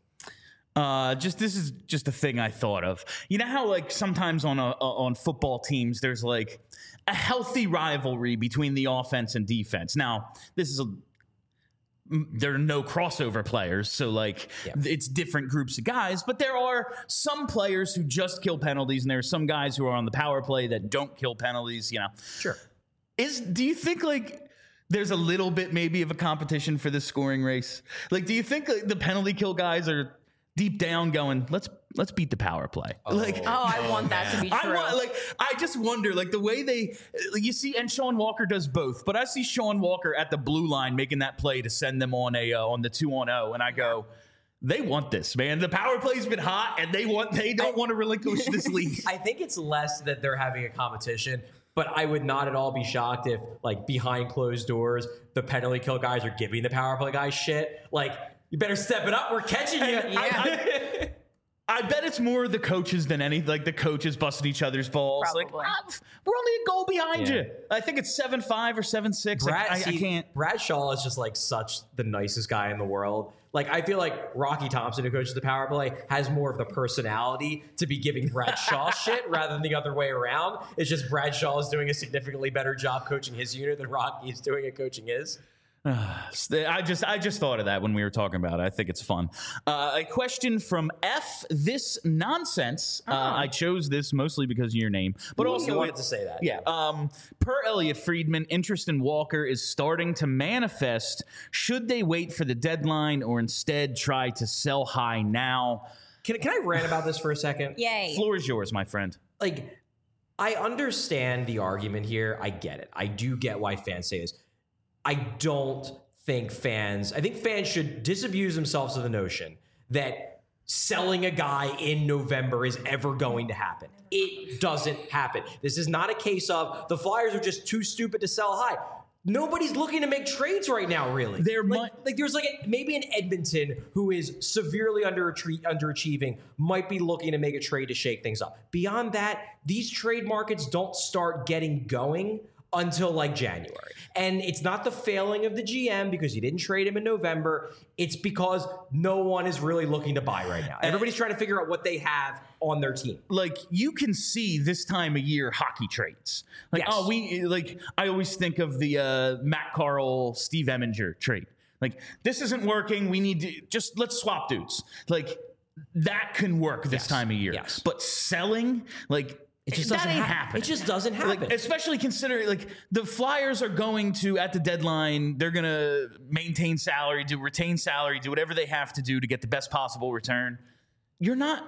[SPEAKER 1] Uh, just this is just a thing I thought of. You know how like sometimes on a, on football teams there's like a healthy rivalry between the offense and defense. Now this is a there are no crossover players, so like
[SPEAKER 2] Yeah.
[SPEAKER 1] it's different groups of guys. But there are some players who just kill penalties, and there are some guys who are on the power play that don't kill penalties. You know,
[SPEAKER 2] Sure.
[SPEAKER 1] is do you think like there's a little bit maybe of a competition for this scoring race? Like, do you think like, the penalty kill guys are deep down going, let's let's beat the power play? Like,
[SPEAKER 3] Oh, I want that to be
[SPEAKER 1] I
[SPEAKER 3] true.
[SPEAKER 1] want, like, I just wonder, like, the way they, like, you see, and Sean Walker does both, but I see Sean Walker at the blue line making that play to send them on a uh, on the two on zero, and I go, they want this, man. The power play's been hot, and they want they don't want to relinquish this lead.
[SPEAKER 2] I think it's less that they're having a competition, but I would not at all be shocked if, like, behind closed doors, the penalty kill guys are giving the power play guys shit. Like, you better step it up. We're catching you.
[SPEAKER 1] I, I bet it's more the coaches than any, like the coaches busting each other's balls. Like,
[SPEAKER 3] Probably.
[SPEAKER 1] ah, we're only a goal behind
[SPEAKER 2] Yeah.
[SPEAKER 1] you. I think it's seven five or seven six.
[SPEAKER 2] Brad,
[SPEAKER 1] Like, I, I
[SPEAKER 2] see,
[SPEAKER 1] can't.
[SPEAKER 2] Bradshaw is just like such the nicest guy in the world. Like, I feel like Rocky Thompson, who coaches the power play, has more of the personality to be giving Bradshaw shit rather than the other way around. It's just Bradshaw is doing a significantly better job coaching his unit than Rocky is doing at coaching his.
[SPEAKER 1] I just I just thought of that when we were talking about it. I think it's fun. Uh, a question from F. This nonsense. Uh, I chose this mostly because of your name, but
[SPEAKER 2] Ooh,
[SPEAKER 1] also
[SPEAKER 2] you wanted
[SPEAKER 1] it-
[SPEAKER 2] to say that.
[SPEAKER 1] Yeah. Um, per Elliot Friedman, interest in Walker is starting to manifest. Should they wait for the deadline or instead try to sell high now?
[SPEAKER 2] Can, can I rant about this for a second?
[SPEAKER 3] Yay.
[SPEAKER 1] Floor is yours, my friend.
[SPEAKER 2] Like, I understand the argument here. I get it. I do get why fans say this. I don't think fans, I think fans should disabuse themselves of the notion that selling a guy in November is ever going to happen. It doesn't happen. This is not a case of the Flyers are just too stupid to sell high. Nobody's looking to make trades right now, really.
[SPEAKER 1] There
[SPEAKER 2] like,
[SPEAKER 1] might-
[SPEAKER 2] like there's like a, maybe an Edmonton who is severely under underachieving might be looking to make a trade to shake things up. Beyond that, these trade markets don't start getting going until like January. And it's not the failing of the G M because you didn't trade him in November. It's because no one is really looking to buy right now. Everybody's trying to figure out what they have on their team.
[SPEAKER 1] Like, you can see this time of year hockey trades. Like,
[SPEAKER 2] Yes.
[SPEAKER 1] oh, we like I always think of the uh, Matt Carl, Steve Eminger trade. Like, this isn't working. We need to just let's swap dudes. Like, that can work this
[SPEAKER 2] Yes.
[SPEAKER 1] time of year.
[SPEAKER 2] Yes.
[SPEAKER 1] But selling, like,
[SPEAKER 2] It just
[SPEAKER 1] that
[SPEAKER 2] doesn't
[SPEAKER 1] ain't
[SPEAKER 2] happen.
[SPEAKER 1] happening.
[SPEAKER 2] It just doesn't happen.
[SPEAKER 1] Like, especially considering like the Flyers are going to at the deadline, they're going to maintain salary, do retain salary, do whatever they have to do to get the best possible return. You're not.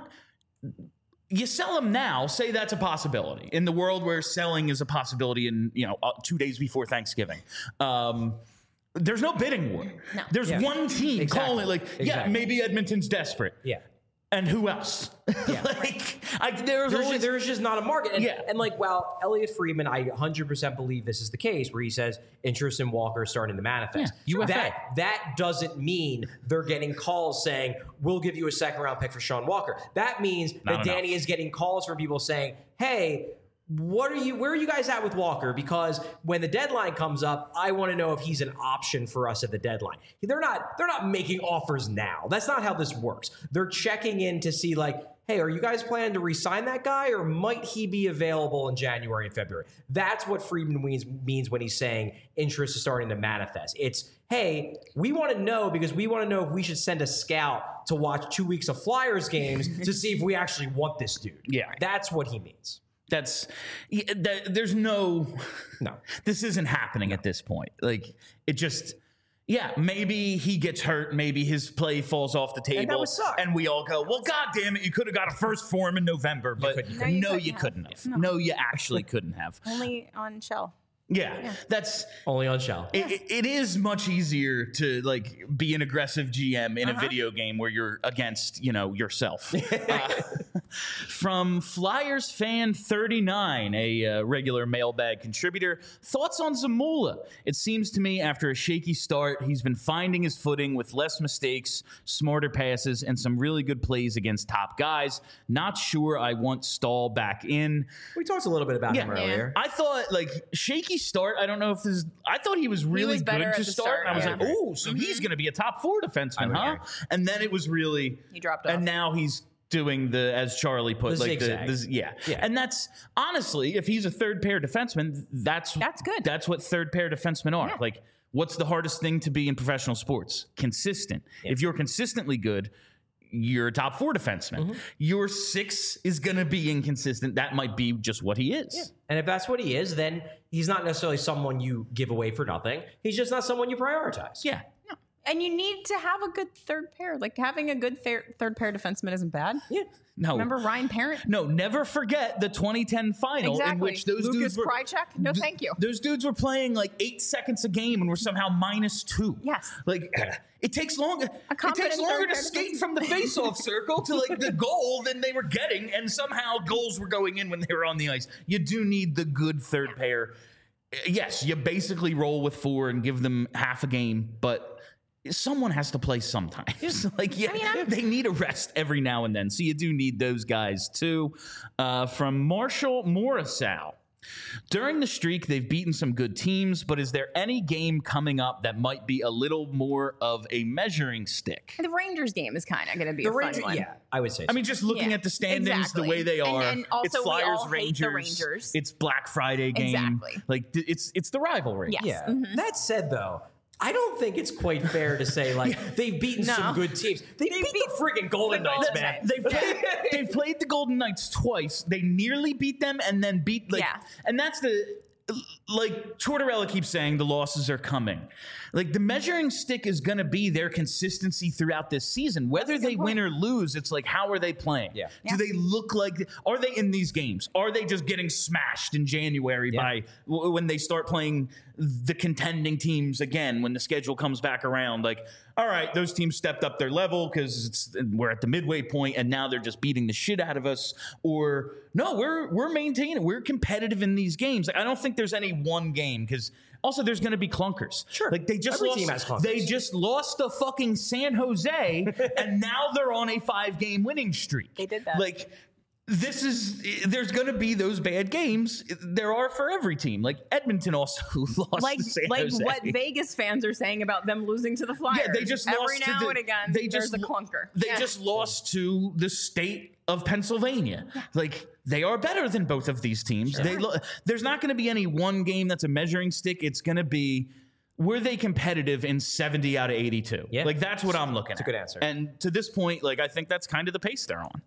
[SPEAKER 1] You sell them now. Say that's a possibility in the world where selling is a possibility. In you know uh, two days before Thanksgiving. Um, There's no bidding war.
[SPEAKER 3] No.
[SPEAKER 1] There's
[SPEAKER 2] Yeah.
[SPEAKER 1] one team
[SPEAKER 2] Exactly.
[SPEAKER 1] calling like, yeah,
[SPEAKER 2] Exactly.
[SPEAKER 1] maybe Edmonton's desperate.
[SPEAKER 2] yeah.
[SPEAKER 1] And who else?
[SPEAKER 2] Yeah.
[SPEAKER 1] like, I, there's
[SPEAKER 2] There's
[SPEAKER 1] always
[SPEAKER 2] just, there's just not a market. And,
[SPEAKER 1] Yeah.
[SPEAKER 2] and like, while Elliot Friedman, I one hundred percent believe this is the case, where he says interest in Walker is starting to manifest.
[SPEAKER 1] Yeah, U F A.
[SPEAKER 2] That, that doesn't mean they're getting calls saying, we'll give you a second round pick for Sean Walker. That means
[SPEAKER 1] Not
[SPEAKER 2] that
[SPEAKER 1] enough.
[SPEAKER 2] Danny is getting calls from people saying, hey, what are you, where are you guys at with Walker? Because when the deadline comes up, I want to know if he's an option for us at the deadline. They're not, they're not making offers now. That's not how this works. They're checking in to see like, hey, are you guys planning to re-sign that guy, or might he be available in January and February? That's what Friedman means, means when he's saying interest is starting to manifest. It's, hey, we want to know because we want to know if we should send a scout to watch two weeks of Flyers games to see if we actually want this dude.
[SPEAKER 1] Yeah.
[SPEAKER 2] That's what he means.
[SPEAKER 1] That's yeah, that, there's no
[SPEAKER 2] No.
[SPEAKER 1] this isn't happening at this point. Like, it just yeah, maybe he gets hurt, maybe his play falls off the table,
[SPEAKER 2] And that would suck.
[SPEAKER 1] and we all go, well, god damn it, you could have got a first for him in November, but
[SPEAKER 2] couldn't-
[SPEAKER 3] No, you
[SPEAKER 1] no,
[SPEAKER 3] couldn't
[SPEAKER 1] you
[SPEAKER 3] have.
[SPEAKER 1] couldn't have.
[SPEAKER 3] No.
[SPEAKER 1] No, you actually couldn't have.
[SPEAKER 3] Only on Shell.
[SPEAKER 1] Yeah, that's
[SPEAKER 2] Only on Shell.
[SPEAKER 1] it, it- it is much easier to like be an aggressive G M in
[SPEAKER 3] Uh-huh.
[SPEAKER 1] a video game where you're against, you know, yourself. Uh, from Flyers fan thirty-nine, a uh, regular mailbag contributor, thoughts on Zamula? It seems to me after a shaky start, he's been finding his footing with less mistakes, smarter passes, and some really good plays against top guys. Not sure I want Stahl back in.
[SPEAKER 2] We talked a little bit about him
[SPEAKER 1] Yeah.
[SPEAKER 2] earlier.
[SPEAKER 1] I thought like shaky start. I don't know if this. I thought he was really
[SPEAKER 3] was better
[SPEAKER 1] good
[SPEAKER 3] at
[SPEAKER 1] to
[SPEAKER 3] the
[SPEAKER 1] start.
[SPEAKER 3] start,
[SPEAKER 1] And I was
[SPEAKER 3] yeah.
[SPEAKER 1] like, oh, so he's going to be a top four defenseman,
[SPEAKER 2] would
[SPEAKER 1] huh?
[SPEAKER 2] agree.
[SPEAKER 1] And then it was really
[SPEAKER 3] He dropped
[SPEAKER 1] And
[SPEAKER 3] off.
[SPEAKER 1] now he's doing the, as Charlie put,
[SPEAKER 2] The
[SPEAKER 1] like the,
[SPEAKER 2] zigzag.
[SPEAKER 1] the yeah.
[SPEAKER 2] Yeah.
[SPEAKER 1] And that's honestly, if he's a third pair defenseman, that's
[SPEAKER 3] That's good.
[SPEAKER 1] That's what third pair defensemen are.
[SPEAKER 3] Yeah.
[SPEAKER 1] Like, what's the hardest thing to be in professional sports? Consistent. If you're consistently good, you're a top four defenseman.
[SPEAKER 2] Mm-hmm.
[SPEAKER 1] Your six is going to be inconsistent. That might be just what he is.
[SPEAKER 2] And if that's what he is, then he's not necessarily someone you give away for nothing. He's just not someone you prioritize.
[SPEAKER 1] Yeah.
[SPEAKER 3] And you need to have a good third pair. Like having a good thir- third pair defenseman isn't bad.
[SPEAKER 2] Yeah.
[SPEAKER 1] No.
[SPEAKER 3] Remember Ryan Parent?
[SPEAKER 1] No, never forget the twenty ten final in
[SPEAKER 3] Exactly.
[SPEAKER 1] which those
[SPEAKER 3] Lucas
[SPEAKER 1] dudes were
[SPEAKER 3] Krychek? No,
[SPEAKER 1] th-
[SPEAKER 3] thank you.
[SPEAKER 1] Those dudes were playing like eight seconds a game and were somehow minus two.
[SPEAKER 3] Yes.
[SPEAKER 1] Like it takes longer. It
[SPEAKER 3] confident
[SPEAKER 1] takes longer
[SPEAKER 3] third
[SPEAKER 1] to
[SPEAKER 3] pair
[SPEAKER 1] skate
[SPEAKER 3] defense.
[SPEAKER 1] from the face-off circle to like the goal than they were getting, and somehow goals were going in when they were on the ice. You do need the good third pair. Yes, you basically roll with four and give them half a game, but someone has to play sometimes. like, yeah,
[SPEAKER 3] mean, I'm-
[SPEAKER 1] they need a rest every now and then. So you do need those guys too. Uh, from Marshall Morrisow. During the streak, they've beaten some good teams, but is there any game coming up that might be a little more of a measuring stick?
[SPEAKER 3] The Rangers game is kind of going to be
[SPEAKER 2] The
[SPEAKER 3] a fun
[SPEAKER 2] Rangers,
[SPEAKER 3] one.
[SPEAKER 2] yeah, I would say so.
[SPEAKER 1] I mean, just looking
[SPEAKER 3] Yeah,
[SPEAKER 1] at the standings,
[SPEAKER 3] exactly.
[SPEAKER 1] the way they
[SPEAKER 3] And-
[SPEAKER 1] are,
[SPEAKER 3] and also
[SPEAKER 1] it's
[SPEAKER 3] we
[SPEAKER 1] Flyers,
[SPEAKER 3] all hate
[SPEAKER 1] Rangers,
[SPEAKER 3] the Rangers.
[SPEAKER 1] it's Black Friday game.
[SPEAKER 3] Exactly.
[SPEAKER 1] Like it's it's the rivalry.
[SPEAKER 3] Yes.
[SPEAKER 2] yeah.
[SPEAKER 3] Mhm.
[SPEAKER 2] That said, though, I don't think it's quite fair to say like they've beaten
[SPEAKER 3] No.
[SPEAKER 2] some good teams. They, beat,
[SPEAKER 3] beat
[SPEAKER 2] the freaking Golden
[SPEAKER 3] the
[SPEAKER 2] Knights,
[SPEAKER 3] Golden
[SPEAKER 2] man.
[SPEAKER 3] Knights.
[SPEAKER 1] They've played, they've played the Golden Knights twice. They nearly beat them and then beat like
[SPEAKER 3] Yeah.
[SPEAKER 1] and that's the like Tortorella keeps saying the losses are coming. Like the measuring stick is going to be their consistency throughout this season. Whether
[SPEAKER 3] That's a good
[SPEAKER 1] they win
[SPEAKER 3] point.
[SPEAKER 1] or lose, it's like how are they playing?
[SPEAKER 2] Yeah.
[SPEAKER 1] Do
[SPEAKER 3] Yeah.
[SPEAKER 1] they look like are they in these games? Are they just getting smashed in January
[SPEAKER 2] Yeah.
[SPEAKER 1] by w- when they start playing the contending teams again when the schedule comes back around? Like all right, those teams stepped up their level because we're at the midway point and now they're just beating the shit out of us. Or no, we're we're maintaining, we're competitive in these games. Like, I don't think there's any one game because also there's going to be clunkers.
[SPEAKER 2] Sure,
[SPEAKER 1] like they just
[SPEAKER 2] Every
[SPEAKER 1] lost.
[SPEAKER 2] team has clunkers.
[SPEAKER 1] They just lost to fucking San Jose, and now they're on a five-game winning streak.
[SPEAKER 3] They did that.
[SPEAKER 1] Like. This is, there's going to be those bad games. There are for every team. Like Edmonton also lost
[SPEAKER 3] Like,
[SPEAKER 1] to San
[SPEAKER 3] like
[SPEAKER 1] Jose.
[SPEAKER 3] what Vegas fans are saying about them losing to the Flyers.
[SPEAKER 1] Yeah, they just
[SPEAKER 3] Every
[SPEAKER 1] lost
[SPEAKER 3] now
[SPEAKER 1] to the,
[SPEAKER 3] and again,
[SPEAKER 1] they
[SPEAKER 3] there's
[SPEAKER 1] just,
[SPEAKER 3] a clunker.
[SPEAKER 1] They
[SPEAKER 3] Yeah.
[SPEAKER 1] just lost to the state of Pennsylvania. Like, they are better than both of these teams. They lo- There's not going to be any one game that's a measuring stick. It's going to be, were they competitive in seventy out of eighty-two?
[SPEAKER 2] Yeah.
[SPEAKER 1] Like, that's what I'm looking at.
[SPEAKER 2] That's a good answer.
[SPEAKER 1] And to this point, like, I think that's kind of the pace they're on.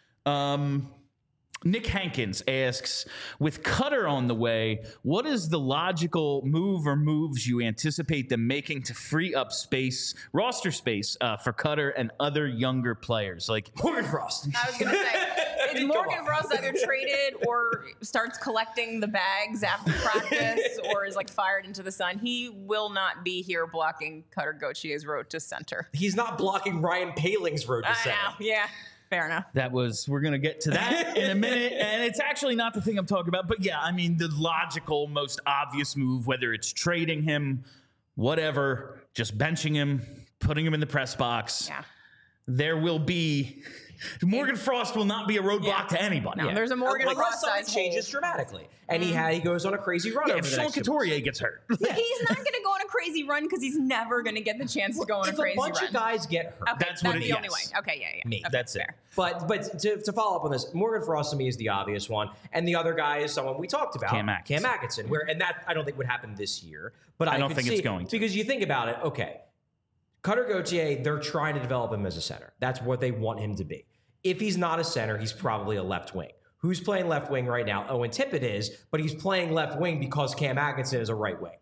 [SPEAKER 1] Um... Nick Hankins asks, with Cutter on the way, what is the logical move or moves you anticipate them making to free up space, roster space, uh, for Cutter and other younger players? Like
[SPEAKER 2] Morgan Frost.
[SPEAKER 3] I was going to say, it's Morgan Frost either traded or starts collecting the bags after practice or is like fired into the sun. He will not be here blocking Cutter Gautier's road to center.
[SPEAKER 2] He's not blocking Ryan Paling's road to
[SPEAKER 3] I
[SPEAKER 2] center.
[SPEAKER 3] know. Yeah. Fair enough.
[SPEAKER 1] that was, we're going to get to that in a minute. And it's actually not the thing I'm talking about. But yeah, I mean, the logical, most obvious move, whether it's trading him, whatever, just benching him, putting him in the press box.
[SPEAKER 3] Yeah.
[SPEAKER 1] There will be Morgan Frost will not be a roadblock
[SPEAKER 3] Yeah.
[SPEAKER 1] to anybody.
[SPEAKER 3] No, there's a Morgan
[SPEAKER 2] Unless
[SPEAKER 3] Frost
[SPEAKER 2] something
[SPEAKER 3] size
[SPEAKER 2] changes
[SPEAKER 3] hole.
[SPEAKER 2] dramatically, and he had he goes on a crazy run.
[SPEAKER 1] Yeah,
[SPEAKER 2] over
[SPEAKER 1] if
[SPEAKER 2] the
[SPEAKER 1] Sean
[SPEAKER 2] next two months.
[SPEAKER 1] Couturier gets hurt.
[SPEAKER 3] But he's not going to go on a crazy run because he's never going to get the chance to go on
[SPEAKER 2] If
[SPEAKER 3] a crazy
[SPEAKER 2] a bunch
[SPEAKER 3] run.
[SPEAKER 2] of guys get hurt,
[SPEAKER 3] Okay,
[SPEAKER 1] That's
[SPEAKER 3] that's
[SPEAKER 1] what it-
[SPEAKER 3] the only
[SPEAKER 1] yes.
[SPEAKER 3] way. Okay, yeah, yeah.
[SPEAKER 2] Me.
[SPEAKER 3] Okay,
[SPEAKER 1] That's it.
[SPEAKER 3] fair.
[SPEAKER 2] But but to, to follow up on this, Morgan Frost to me is the obvious one, and the other guy is someone we talked about,
[SPEAKER 1] Cam Atkinson.
[SPEAKER 2] Cam Atkinson. Where and that I don't think would happen this year, but I,
[SPEAKER 1] I don't
[SPEAKER 2] could
[SPEAKER 1] think
[SPEAKER 2] see
[SPEAKER 1] it's
[SPEAKER 2] it
[SPEAKER 1] going to.
[SPEAKER 2] because you think about it. Okay, Cutter Gauthier, they're trying to develop him as a center. That's what they want him to be. If he's not a center, he's probably a left wing. Who's playing left wing right now? Owen Tippett is, but he's playing left wing because Cam Atkinson is a right wing.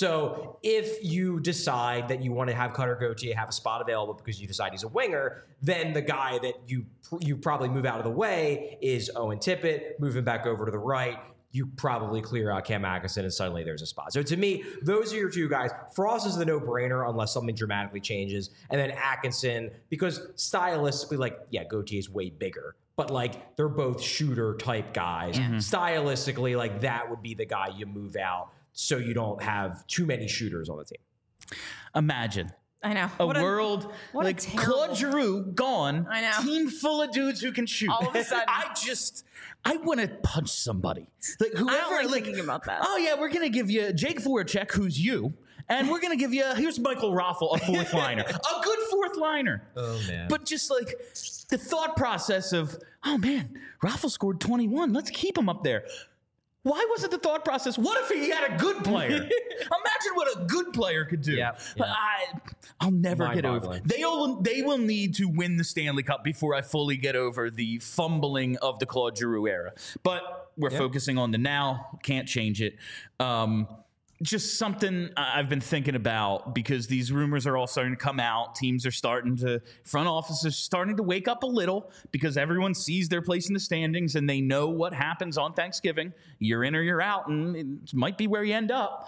[SPEAKER 2] So if you decide that you want to have Cutter Gauthier have a spot available because you decide he's a winger, then the guy that you you probably move out of the way is Owen Tippett, move him back over to the right. You probably clear out Cam Atkinson and suddenly there's a spot. So to me, those are your two guys. Frost is the no-brainer unless something dramatically changes. And then Atkinson, because stylistically, like, yeah, Gauthier is way bigger. But, like, they're both shooter-type guys.
[SPEAKER 3] Yeah.
[SPEAKER 2] Stylistically, like, that would be the guy you move out so you don't have too many shooters on the team.
[SPEAKER 1] Imagine
[SPEAKER 3] I know.
[SPEAKER 1] a
[SPEAKER 3] What
[SPEAKER 1] world
[SPEAKER 3] what a
[SPEAKER 1] like
[SPEAKER 3] terrible-
[SPEAKER 1] Claude Giroux gone,
[SPEAKER 3] I know.
[SPEAKER 1] team full of dudes who can shoot.
[SPEAKER 3] All of a sudden.
[SPEAKER 1] I just, I want to punch somebody. Like whoever,
[SPEAKER 3] like thinking about that.
[SPEAKER 1] Oh yeah, we're gonna give you Jake Voracek, who's you, and we're gonna give you here's Michael Raffle, a fourth liner, a good fourth liner.
[SPEAKER 2] Oh, man.
[SPEAKER 1] But just like the thought process of, oh man, Raffle scored twenty-one. Let's keep him up there. Why wasn't the thought process? What if he had a good player? Imagine what a good player could do.
[SPEAKER 2] Yep,
[SPEAKER 1] But
[SPEAKER 2] yep.
[SPEAKER 1] I, I'll never get over.
[SPEAKER 2] Mind-boggling.
[SPEAKER 1] They will. They will need to win the Stanley Cup before I fully get over the fumbling of the Claude Giroux era. But we're
[SPEAKER 2] Yep.
[SPEAKER 1] focusing on the now. Can't change it. Um, just something I- I've been thinking about because these rumors are all starting to come out. Teams are starting to, front offices starting to wake up a little because everyone sees their place in the standings and they know what happens on Thanksgiving. You're in or you're out, and it might be where you end up.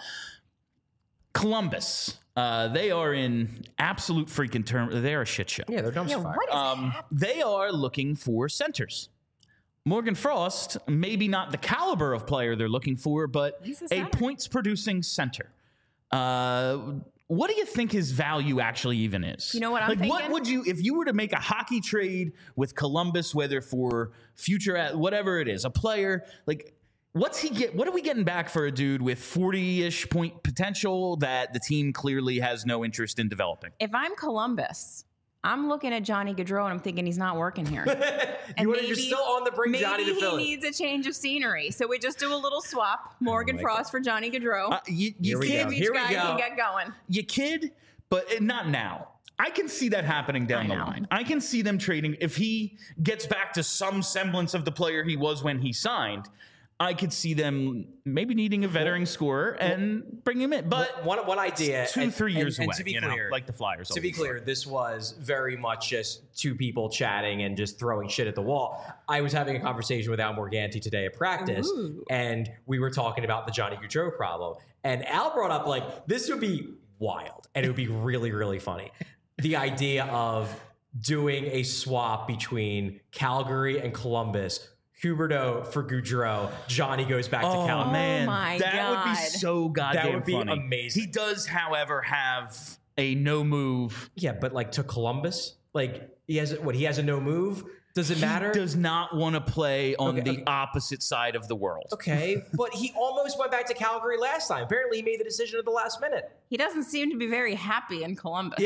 [SPEAKER 1] Columbus, uh, they are in absolute freaking term. They're a shit show.
[SPEAKER 2] Yeah, they're dumpster
[SPEAKER 3] Yeah,
[SPEAKER 2] fire.
[SPEAKER 3] what is
[SPEAKER 1] Um, they are looking for centers. Morgan Frost, maybe not the caliber of player they're looking for, but
[SPEAKER 3] He's a
[SPEAKER 1] a
[SPEAKER 3] center.
[SPEAKER 1] points producing center. Uh, what do you think his value actually even is?
[SPEAKER 3] You know what I'm
[SPEAKER 1] like, What
[SPEAKER 3] thinking?
[SPEAKER 1] would you, if you were to make a hockey trade with Columbus, whether for future, at whatever it is, a player, like, what's he get? What are we getting back for a dude with forty-ish point potential that the team clearly has no interest in developing?
[SPEAKER 3] If I'm Columbus, I'm looking at Johnny Gaudreau and I'm thinking he's not working here. And
[SPEAKER 2] You wanna- you're still on the bring
[SPEAKER 3] maybe
[SPEAKER 2] Johnny to
[SPEAKER 3] he
[SPEAKER 2] Philly.
[SPEAKER 3] needs a change of scenery. So we just do a little swap. Morgan
[SPEAKER 2] my
[SPEAKER 3] Frost for Johnny Gaudreau.
[SPEAKER 1] Uh, you you
[SPEAKER 2] Here we
[SPEAKER 1] kid,
[SPEAKER 2] go.
[SPEAKER 3] Each
[SPEAKER 2] Here we
[SPEAKER 3] guy
[SPEAKER 2] go.
[SPEAKER 3] can get going.
[SPEAKER 1] you kid, but not now. I can see that happening down
[SPEAKER 3] I
[SPEAKER 1] the
[SPEAKER 3] know.
[SPEAKER 1] line. I can see them trading if he gets back to some semblance of the player he was when he signed. I could see them maybe needing a veteran scorer and bring him in. But
[SPEAKER 2] one one idea,
[SPEAKER 1] two,
[SPEAKER 2] and-
[SPEAKER 1] three
[SPEAKER 2] and-
[SPEAKER 1] years
[SPEAKER 2] and
[SPEAKER 1] away,
[SPEAKER 2] to be
[SPEAKER 1] you know,
[SPEAKER 2] clear,
[SPEAKER 1] like the Flyers.
[SPEAKER 2] To be
[SPEAKER 1] always
[SPEAKER 2] clear, this was very much just two people chatting and just throwing shit at the wall. I was having a conversation with Al Morganti today at practice,
[SPEAKER 3] Ooh.
[SPEAKER 2] and we were talking about the Johnny Gaudreau problem. And Al brought up, like, this would be wild, and it would be really, really funny. the idea of doing a swap between Calgary and Columbus. Huberdeau for Gaudreau. Johnny goes back to
[SPEAKER 1] Oh
[SPEAKER 2] Calgary.
[SPEAKER 1] man,
[SPEAKER 3] my
[SPEAKER 1] that would be
[SPEAKER 3] God.
[SPEAKER 1] so goddamn
[SPEAKER 2] That would be
[SPEAKER 1] funny.
[SPEAKER 2] amazing.
[SPEAKER 1] He does, however, have a no move.
[SPEAKER 2] Yeah, but like to Columbus, like he has what? He has a no move. Does it matter?
[SPEAKER 1] He does not want to play on
[SPEAKER 2] Okay,
[SPEAKER 1] the
[SPEAKER 2] okay.
[SPEAKER 1] opposite side of the world.
[SPEAKER 2] Okay, but he almost went back to Calgary last time. Apparently, he made the decision at the last minute.
[SPEAKER 3] He doesn't seem to be very happy in Columbus.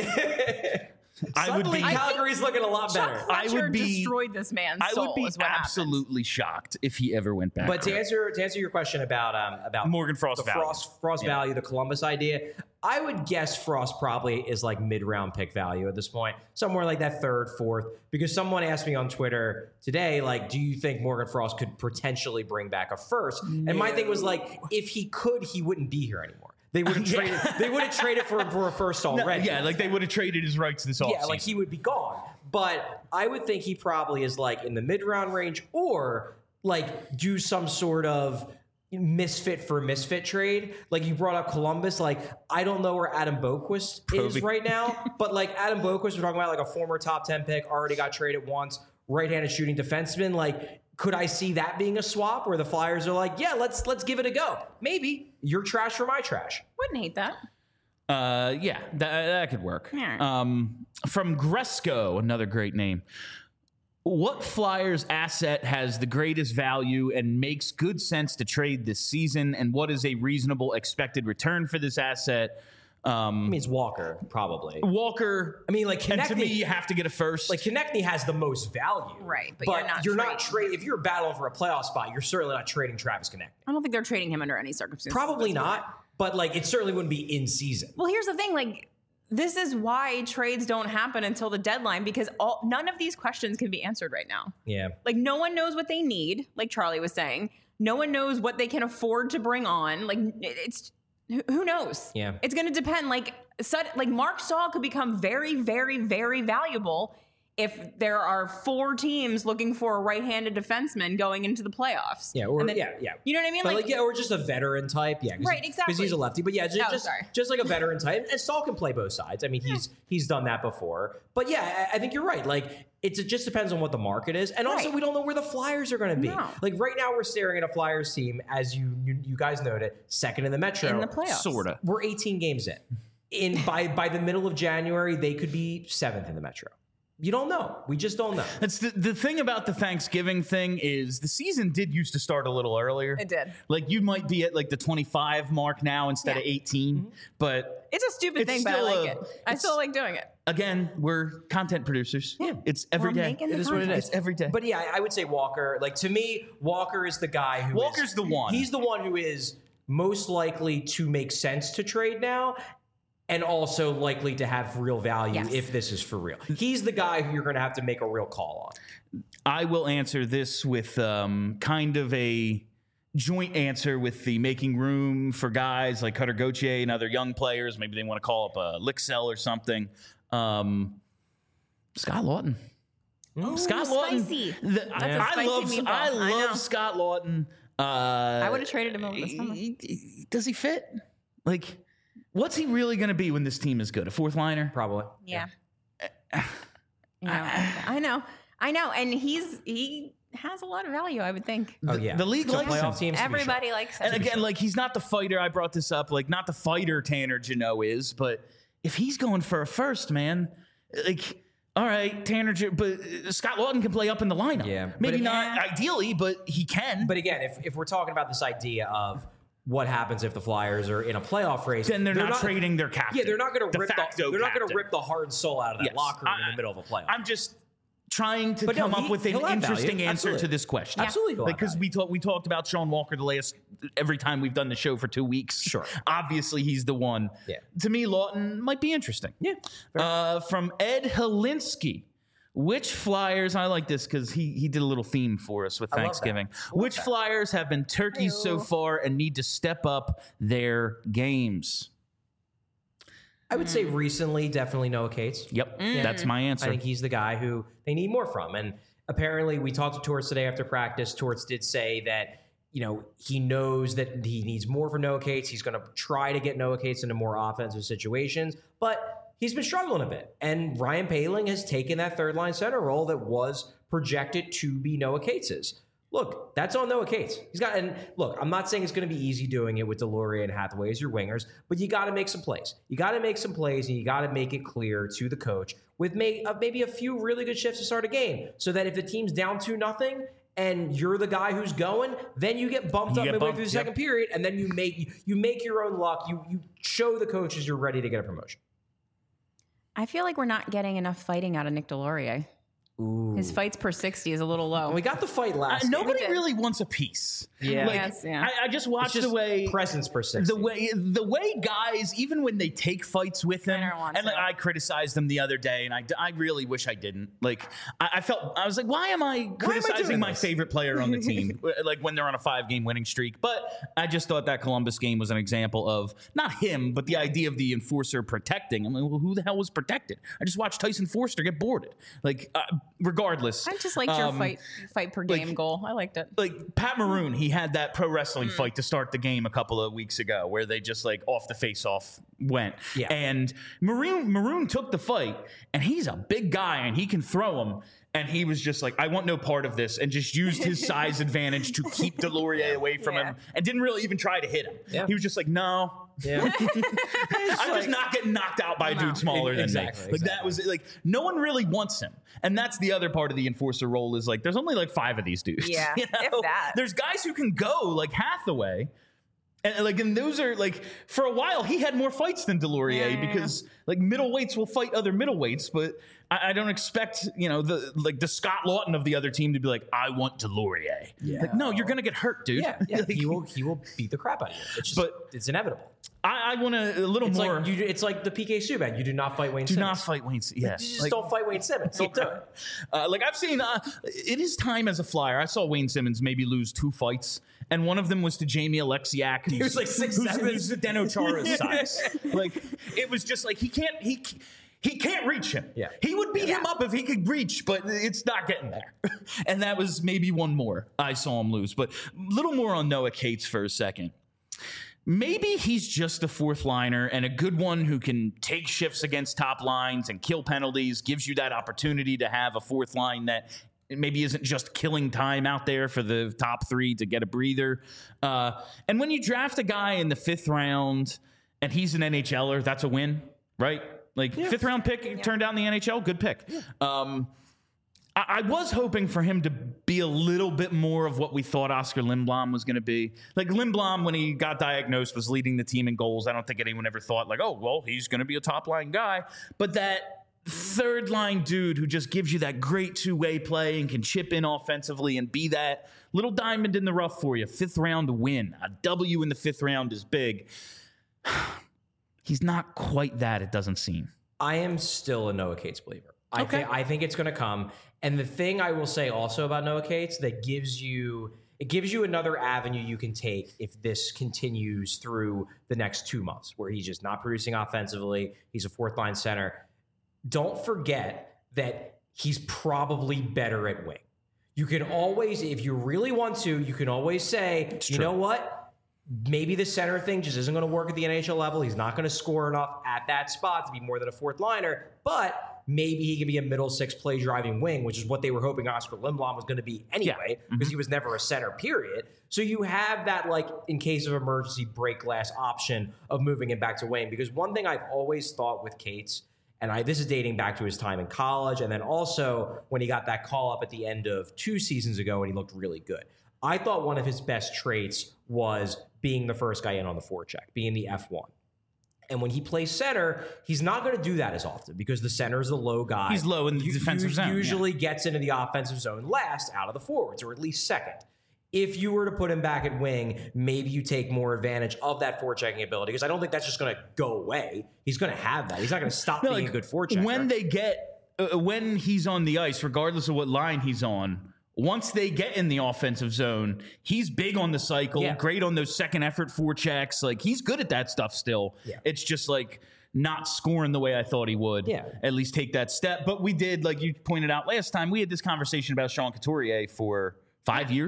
[SPEAKER 1] I would
[SPEAKER 2] Suddenly,
[SPEAKER 1] be.
[SPEAKER 2] Calgary's looking a lot
[SPEAKER 3] Chuck
[SPEAKER 2] better.
[SPEAKER 1] I
[SPEAKER 3] Fletcher
[SPEAKER 1] would be-
[SPEAKER 3] destroyed this man's
[SPEAKER 1] I
[SPEAKER 3] soul.
[SPEAKER 1] would be
[SPEAKER 3] is what happened.
[SPEAKER 1] absolutely shocked if he ever went back.
[SPEAKER 2] But to
[SPEAKER 1] there.
[SPEAKER 2] answer to answer your question about um about
[SPEAKER 1] Morgan Frost
[SPEAKER 2] the
[SPEAKER 1] value.
[SPEAKER 2] Frost Frost
[SPEAKER 1] Yeah.
[SPEAKER 2] value, the Columbus idea, I would guess Frost probably is like mid round pick value at this point, somewhere like that third, fourth. Because someone asked me on Twitter today, like, do you think Morgan Frost could potentially bring back a first? And my thing was like, if he could, he wouldn't be here anymore. They would have
[SPEAKER 1] Yeah.
[SPEAKER 2] traded. They would have traded for for a first
[SPEAKER 1] No,
[SPEAKER 2] already.
[SPEAKER 1] yeah, like they would have traded his rights this offseason.
[SPEAKER 2] Yeah, like he would be gone. But I would think he probably is like in the mid round range or like do some sort of misfit for misfit trade. Like you brought up Columbus. Like I don't know where Adam Boquist is
[SPEAKER 1] Proby.
[SPEAKER 2] right now, but like Adam Boquist, we're talking about like a former top ten pick, already got traded once, right-handed shooting defenseman. Like could I see that being a swap where the Flyers are like, yeah, let's let's give it a go. Maybe your trash for my trash.
[SPEAKER 3] Wouldn't hate that.
[SPEAKER 1] Uh, yeah, that, that could work.
[SPEAKER 3] Yeah.
[SPEAKER 1] Um, from Gresco, another great name. What Flyers asset has the greatest value and makes good sense to trade this season? And what is a reasonable expected return for this asset? Um,
[SPEAKER 2] I mean, it's Walker probably.
[SPEAKER 1] Walker.
[SPEAKER 2] I mean, like
[SPEAKER 1] and to me,
[SPEAKER 2] Konechny-
[SPEAKER 1] you have to get a first.
[SPEAKER 2] Like Konechny has the most value,
[SPEAKER 3] Right, but
[SPEAKER 2] But,
[SPEAKER 3] you're not
[SPEAKER 2] you're not
[SPEAKER 3] trading.
[SPEAKER 2] trading. If you're battling for a playoff spot, you're certainly not trading Travis Konechny.
[SPEAKER 3] I don't think they're trading him under any circumstances.
[SPEAKER 2] Probably
[SPEAKER 3] That's
[SPEAKER 2] not. But like, it certainly wouldn't be in season.
[SPEAKER 3] Well, here's the thing, like this is why trades don't happen until the deadline because all none of these questions can be answered right now.
[SPEAKER 2] Yeah.
[SPEAKER 3] Like no one knows what they need, like Charlie was saying. No one knows what they can afford to bring on. Like it's who- who knows?
[SPEAKER 2] Yeah.
[SPEAKER 3] It's going to depend. Like sud- like Mark Stahl could become very, very, very valuable if there are four teams looking for a right-handed defenseman going into the playoffs.
[SPEAKER 2] Yeah. Or
[SPEAKER 3] And then-
[SPEAKER 2] yeah, yeah.
[SPEAKER 3] You know what I mean?
[SPEAKER 2] But like, yeah, or just a veteran type. Yeah. 'cause
[SPEAKER 3] Right,
[SPEAKER 2] he-
[SPEAKER 3] exactly.
[SPEAKER 2] Because he's a lefty. But yeah, just
[SPEAKER 3] Oh,
[SPEAKER 2] just,
[SPEAKER 3] sorry.
[SPEAKER 2] just like a veteran type. And Stahl can play both sides. I mean, he's he's done that before. But yeah, I, I think you're right. Like, it's, it just depends on what the market is. And also,
[SPEAKER 3] Right.
[SPEAKER 2] we don't know where the Flyers are going to be.
[SPEAKER 3] No.
[SPEAKER 2] Like, right now, we're staring at a Flyers team, as you you, you guys noted, second in the Metro.
[SPEAKER 3] in the playoffs.
[SPEAKER 1] sorta.
[SPEAKER 2] We're eighteen games in. In by by the middle of January, they could be seventh in the Metro. You don't know. We just don't know.
[SPEAKER 1] That's the, the thing about the Thanksgiving thing is the season did used to start a little earlier.
[SPEAKER 3] It did.
[SPEAKER 1] Like you might be at like the twenty-five mark now instead of
[SPEAKER 3] Yeah.
[SPEAKER 1] eighteen, but
[SPEAKER 3] It's a stupid
[SPEAKER 1] It's
[SPEAKER 3] thing, but I
[SPEAKER 1] still
[SPEAKER 3] like
[SPEAKER 1] a-
[SPEAKER 3] it. I
[SPEAKER 1] it's-
[SPEAKER 3] still like doing it.
[SPEAKER 1] again, we're content producers. Yeah, it's every
[SPEAKER 3] We're
[SPEAKER 1] day.
[SPEAKER 3] making the
[SPEAKER 2] It is what it
[SPEAKER 3] content.
[SPEAKER 2] is.
[SPEAKER 1] It's every day.
[SPEAKER 2] But yeah, I I would say Walker. Like to me, Walker is the guy who.
[SPEAKER 1] Walker's
[SPEAKER 2] is-
[SPEAKER 1] the one.
[SPEAKER 2] He's the one who is most likely to make sense to trade now, and also likely to have real value
[SPEAKER 3] Yes.
[SPEAKER 2] if this is for real. He's the guy who you're going to have to make a real call on.
[SPEAKER 1] I will answer this with um, kind of a joint answer with the making room for guys like Cutter Gauthier and other young players. Maybe they want to call up a Lixell or something. Um, Scott Lawton.
[SPEAKER 3] Ooh,
[SPEAKER 1] Scott Lawton.
[SPEAKER 3] spicy.
[SPEAKER 1] the-
[SPEAKER 3] That's a
[SPEAKER 1] I
[SPEAKER 3] spicy
[SPEAKER 1] love.
[SPEAKER 3] meatball.
[SPEAKER 1] I
[SPEAKER 3] I
[SPEAKER 1] love
[SPEAKER 3] know.
[SPEAKER 1] Scott Lawton. Uh,
[SPEAKER 3] I would have traded him over the summer.
[SPEAKER 1] he- he- Does he fit? Like, what's he really going to be when this team is good? A fourth liner?
[SPEAKER 2] Probably.
[SPEAKER 3] Yeah. Yeah, I know. I know. And he's he has a lot of value, I would think.
[SPEAKER 2] Oh yeah.
[SPEAKER 1] The league
[SPEAKER 2] So
[SPEAKER 1] likes him.
[SPEAKER 2] playoff teams. to be sure.
[SPEAKER 3] Everybody likes him.
[SPEAKER 1] And again, like he's not the fighter. I brought this up. Like not the fighter Tanner Janot is, but if he's going for a first, man, like all right, Tanner, Jan- but uh, Scott Lawton can play up in the lineup.
[SPEAKER 2] Yeah, but
[SPEAKER 1] maybe
[SPEAKER 2] it-
[SPEAKER 1] not
[SPEAKER 3] Yeah.
[SPEAKER 1] ideally, but he can.
[SPEAKER 2] But again, if, if we're talking about this idea of what happens if the Flyers are in a playoff race,
[SPEAKER 1] then they're, not, trading their captain.
[SPEAKER 2] Yeah, they're not going to
[SPEAKER 1] De
[SPEAKER 2] rip the,
[SPEAKER 1] facto
[SPEAKER 2] they're not going to
[SPEAKER 1] captain.
[SPEAKER 2] rip the heart and soul out of that
[SPEAKER 1] Yes.
[SPEAKER 2] locker room in
[SPEAKER 1] I-
[SPEAKER 2] the middle of a playoff.
[SPEAKER 1] I'm just trying to
[SPEAKER 2] But no,
[SPEAKER 1] come
[SPEAKER 2] he-
[SPEAKER 1] up with an
[SPEAKER 2] he'll have
[SPEAKER 1] interesting
[SPEAKER 2] value.
[SPEAKER 1] answer
[SPEAKER 2] Absolutely.
[SPEAKER 1] to this question.
[SPEAKER 2] Absolutely he'll have
[SPEAKER 1] because we talked we talked about Sean Walker the last every time we've done the show for two weeks.
[SPEAKER 2] Sure.
[SPEAKER 1] Obviously, he's the one.
[SPEAKER 2] Yeah.
[SPEAKER 1] To me, Lawton might be interesting.
[SPEAKER 2] Yeah,
[SPEAKER 1] Uh, from Ed Helinsky. Which Flyers, I like this because he, he did a little theme for us with
[SPEAKER 2] I love
[SPEAKER 1] Thanksgiving.
[SPEAKER 2] that. I love
[SPEAKER 1] Which
[SPEAKER 2] that.
[SPEAKER 1] Flyers have been turkeys so
[SPEAKER 3] Ew.
[SPEAKER 1] far and need to step up their games?
[SPEAKER 2] I would say recently, definitely Noah Cates.
[SPEAKER 1] Yep, that's my
[SPEAKER 2] I
[SPEAKER 1] answer.
[SPEAKER 2] think he's the guy who they need more from. And apparently, we talked to Torts today after practice. Torts did say that, you know, he knows that he needs more for Noah Cates. He's going to try to get Noah Cates into more offensive situations, but he's been struggling a bit. And Ryan Poehling has taken that third line center role that was projected to be Noah Cates's. Look, that's on Noah Cates. He's got, and look, I'm not saying it's going to be easy doing it with Delorier and Hathaway as your wingers, but you got to make some plays. You got to make some plays, and you got to make it clear to the coach with may, uh, maybe a few really good shifts to start a game, so that if the team's down two nothing and you're the guy who's going, then you get bumped
[SPEAKER 1] You
[SPEAKER 2] up
[SPEAKER 1] get
[SPEAKER 2] midway
[SPEAKER 1] bumped,
[SPEAKER 2] through the
[SPEAKER 1] yep.
[SPEAKER 2] second period, and then you make you make your own luck. You you show the coaches you're ready to get a promotion.
[SPEAKER 3] I feel like we're not getting enough fighting out of Nick Delorier.
[SPEAKER 2] Ooh.
[SPEAKER 3] His fights per sixty is a little low.
[SPEAKER 2] And we got the fight last.
[SPEAKER 1] Uh,
[SPEAKER 2] game.
[SPEAKER 1] nobody
[SPEAKER 3] did.
[SPEAKER 1] really wants a piece.
[SPEAKER 2] Yeah.
[SPEAKER 1] Like,
[SPEAKER 3] Yes, yeah.
[SPEAKER 1] I, I just watched
[SPEAKER 2] It's just
[SPEAKER 1] the way
[SPEAKER 2] presence per sixty.
[SPEAKER 1] the way the way guys, even when they take fights with him,
[SPEAKER 3] Leonard wants
[SPEAKER 1] and like,
[SPEAKER 3] it.
[SPEAKER 1] I criticized them the other day, and I, I really wish I didn't. Like I, I felt I was like, why am I criticizing
[SPEAKER 2] doing
[SPEAKER 1] my
[SPEAKER 2] this?
[SPEAKER 1] favorite player on the team? Like when they're on a five game winning streak. But I just thought that Columbus game was an example of not him, but the idea of the enforcer protecting. I'm like, well, who the hell was protected? I just watched Tyson Forster get boarded. Like uh, regardless.
[SPEAKER 3] I just liked your
[SPEAKER 1] um,
[SPEAKER 3] fight fight per game
[SPEAKER 1] like-
[SPEAKER 3] goal. I liked it.
[SPEAKER 1] like Pat Maroon, he had that pro wrestling fight to start the game a couple of weeks ago where they just like off the face off went.
[SPEAKER 2] Yeah.
[SPEAKER 1] And Maroon Maroon took the fight, and he's a big guy and he can throw him. And he was just like, I want no part of this, and just used his size advantage to keep Delorier away from
[SPEAKER 3] Yeah.
[SPEAKER 1] him and didn't really even try to hit him.
[SPEAKER 2] Yeah.
[SPEAKER 1] He was just like, no.
[SPEAKER 2] Yeah.
[SPEAKER 1] I'm just not getting knocked out by a dude smaller than
[SPEAKER 2] Exactly,
[SPEAKER 1] me. Like that was like no one really wants him, and that's the other part of the enforcer role is like there's only like five of these dudes.
[SPEAKER 3] Yeah,
[SPEAKER 1] you
[SPEAKER 3] if
[SPEAKER 1] know?
[SPEAKER 3] that.
[SPEAKER 1] There's guys who can go like Hathaway, and like and those are like for a while he had more fights than Delorier
[SPEAKER 3] Yeah, yeah, yeah.
[SPEAKER 1] because like middleweights will fight other middleweights, but I, I don't expect you know the like the Scott Lawton of the other team to be like I want Delorier.
[SPEAKER 2] Yeah.
[SPEAKER 1] Like no, you're gonna get hurt, dude.
[SPEAKER 2] Yeah, yeah.
[SPEAKER 1] Like,
[SPEAKER 2] he will he will beat the crap out of you. It's just,
[SPEAKER 1] But-
[SPEAKER 2] it's inevitable.
[SPEAKER 1] I, I want to a little
[SPEAKER 2] It's
[SPEAKER 1] more.
[SPEAKER 2] like you, it's like the P K Subban. You do not fight Wayne
[SPEAKER 1] do
[SPEAKER 2] Simmons.
[SPEAKER 1] not fight Wayne. Yeah,
[SPEAKER 2] You just
[SPEAKER 1] like-
[SPEAKER 2] don't fight Wayne Simmons. Don't do it.
[SPEAKER 1] Uh, like I've seen, uh, it is time as a flyer. I saw Wayne Simmons maybe lose two fights, and one of them was to Jamie Alexiak. Who's,
[SPEAKER 2] was like six
[SPEAKER 1] who's,
[SPEAKER 2] seven.
[SPEAKER 1] who's Zdeno Chara's size. Like it was just like he can't he he can't reach him.
[SPEAKER 2] Yeah.
[SPEAKER 1] He would beat him up if he could reach, but it's not getting there. And that was maybe one more I saw him lose. But a little more on Noah Cates for a second. Maybe he's just a fourth liner and a good one who can take shifts against top lines and kill penalties, gives you that opportunity to have a fourth line that maybe isn't just killing time out there for the top three to get a breather. Uh, and when you draft a guy in the fifth round and he's an N H L er, that's a win, right? Like fifth round pick turned out in the N H L, good pick. Um, I, I was hoping for him to be a little bit more of what we thought Oscar Lindblom was going to be. Like Lindblom, when he got diagnosed, was leading the team in goals. I don't think anyone ever thought like, oh, well, he's going to be a top line guy. But that third line dude who just gives you that great two way play and can chip in offensively and be that little diamond in the rough for you. Fifth round win. A W in the fifth round is big. He's not quite that, it doesn't seem.
[SPEAKER 2] I am still a Noah Cates believer. I
[SPEAKER 1] Okay.
[SPEAKER 2] think I think it's going to come. And the thing I will say also about Noah Cates that gives you it gives you another avenue you can take if this continues through the next two months, where he's just not producing offensively. He's a fourth line center. Don't forget that he's probably better at wing. You can always, if you really want to, you can always say, you
[SPEAKER 1] true.
[SPEAKER 2] know what? Maybe the center thing just isn't going to work at the N H L level. He's not going to score enough at that spot to be more than a fourth liner, but maybe he can be a middle six play driving wing, which is what they were hoping Oscar Lindblom was going to be anyway, because he was never a center, period. So you have that, like, in case of emergency, break glass option of moving him back to wing. Because one thing I've always thought with Cates, and I, this is dating back to his time in college, and then also when he got that call up at the end of two seasons ago and he looked really good. I thought one of his best traits was being the first guy in on the forecheck, being the F one. And when he plays center, he's not going to do that as often because the center is the low guy.
[SPEAKER 1] He's low in the
[SPEAKER 2] You-
[SPEAKER 1] defensive
[SPEAKER 2] you-
[SPEAKER 1] zone, yeah.
[SPEAKER 2] Usually gets into the offensive zone last out of the forwards, or at least second. If you were to put him back at wing, maybe you take more advantage of that forechecking ability, because I don't think that's just going to go away. He's going to have that. He's not going to stop
[SPEAKER 1] No,
[SPEAKER 2] being
[SPEAKER 1] like,
[SPEAKER 2] a good forechecker.
[SPEAKER 1] When they get, uh, when he's on the ice, regardless of what line he's on, once they get in the offensive zone, he's big on the cycle,
[SPEAKER 2] Yeah.
[SPEAKER 1] great on those second effort forechecks. Like he's good at that stuff still.
[SPEAKER 2] Yeah.
[SPEAKER 1] It's just like not scoring the way I thought he would.
[SPEAKER 2] Yeah.
[SPEAKER 1] At least take that step. But we did, like you pointed out last time, we had this conversation about Sean Couturier for five years.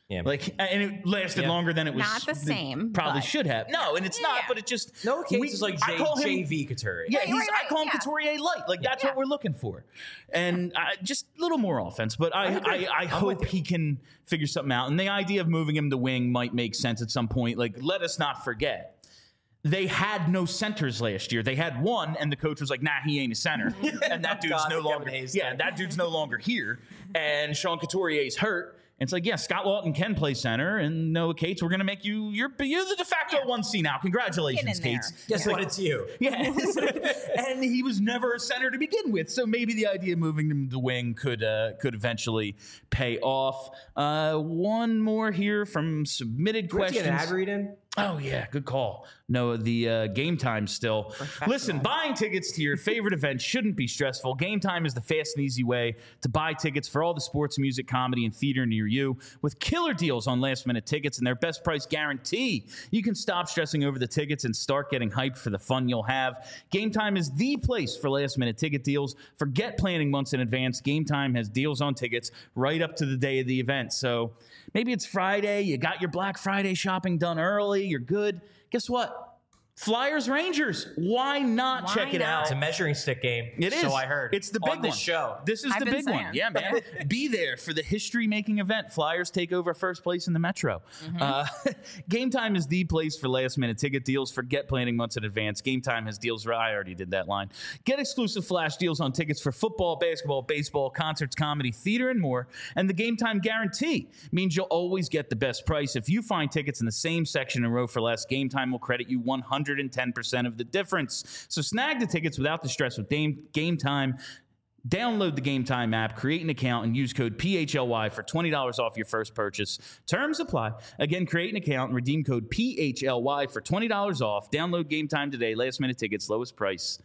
[SPEAKER 2] Yeah.
[SPEAKER 1] Like, and it lasted
[SPEAKER 2] Yeah.
[SPEAKER 1] longer than it was.
[SPEAKER 3] Not the same,
[SPEAKER 1] Probably
[SPEAKER 3] but-
[SPEAKER 1] should have. No, and it's not.
[SPEAKER 3] Yeah.
[SPEAKER 1] But it just
[SPEAKER 2] No case
[SPEAKER 1] we-
[SPEAKER 2] is like
[SPEAKER 1] I
[SPEAKER 2] J-
[SPEAKER 1] call him-
[SPEAKER 2] J V Couturier.
[SPEAKER 1] Yeah,
[SPEAKER 3] Right,
[SPEAKER 1] he's,
[SPEAKER 3] right,
[SPEAKER 1] I call him
[SPEAKER 3] yeah.
[SPEAKER 1] Couturier light. Like that's
[SPEAKER 3] Yeah.
[SPEAKER 1] what we're looking for, and I, just a little more offense. But I, I, I hope he can figure something out. And the idea of moving him to wing might make sense at some point. Like, let us not forget. They had no centers last year. They had one, and the coach was like, "Nah, he ain't a center." And that dude's
[SPEAKER 2] God,
[SPEAKER 1] no
[SPEAKER 2] Kevin
[SPEAKER 1] longer.
[SPEAKER 2] Hayes
[SPEAKER 1] Yeah,
[SPEAKER 2] thing.
[SPEAKER 1] that dude's no longer here. And Sean Couturier's hurt. And it's like, yeah, Scott Lawton can play center, and Noah Cates, we're gonna make you. You're you're the de facto
[SPEAKER 3] Yeah.
[SPEAKER 1] one C now. Congratulations,
[SPEAKER 3] Get in there.
[SPEAKER 1] Cates.
[SPEAKER 2] Guess what? It's you.
[SPEAKER 1] Yeah, it's like- and he was never a center to begin with, so maybe the idea of moving him to wing could uh, could eventually pay off. Uh, one more here from submitted
[SPEAKER 2] Let's
[SPEAKER 1] questions.
[SPEAKER 2] get an ad read in.
[SPEAKER 1] Oh yeah, good call. No, the uh, game time still. Listen, buying tickets to your favorite event shouldn't be stressful. Game Time is the fast and easy way to buy tickets for all the sports, music, comedy, and theater near you, with killer deals on last-minute tickets and their best price guarantee. You can stop stressing over the tickets and start getting hyped for the fun you'll have. Game Time is the place for last-minute ticket deals. Forget planning months in advance. Game Time has deals on tickets right up to the day of the event. So maybe it's Friday, you got your Black Friday shopping done early, you're good. Guess what? Flyers Rangers. Why not
[SPEAKER 3] Why
[SPEAKER 1] check it
[SPEAKER 3] not?
[SPEAKER 1] out?
[SPEAKER 2] It's a measuring stick game.
[SPEAKER 1] It is.
[SPEAKER 2] So I heard.
[SPEAKER 1] It's the big
[SPEAKER 2] on this
[SPEAKER 1] one.
[SPEAKER 2] show.
[SPEAKER 1] This is
[SPEAKER 3] I've
[SPEAKER 1] the
[SPEAKER 3] been
[SPEAKER 1] big one.
[SPEAKER 3] saying.
[SPEAKER 1] Yeah, man. Be there for the history-making event. Flyers take over first place in the Metro.
[SPEAKER 3] Mm-hmm.
[SPEAKER 1] Uh, Game Time is the place for last-minute ticket deals. Forget planning months in advance. Game Time has deals. I already did that line. Get exclusive flash deals on tickets for football, basketball, baseball, concerts, comedy, theater, and more. And the Game Time guarantee means you'll always get the best price. If you find tickets in the same section and row for less, Game Time will credit you one hundred ten percent of the difference. So snag the tickets without the stress with Game, Game Time. Download the Game Time app, create an account, and use code P H L Y for twenty dollars off your first purchase. Terms apply. Again, create an account and redeem code P H L Y for twenty dollars off. Download Game Time today. Last minute tickets, lowest price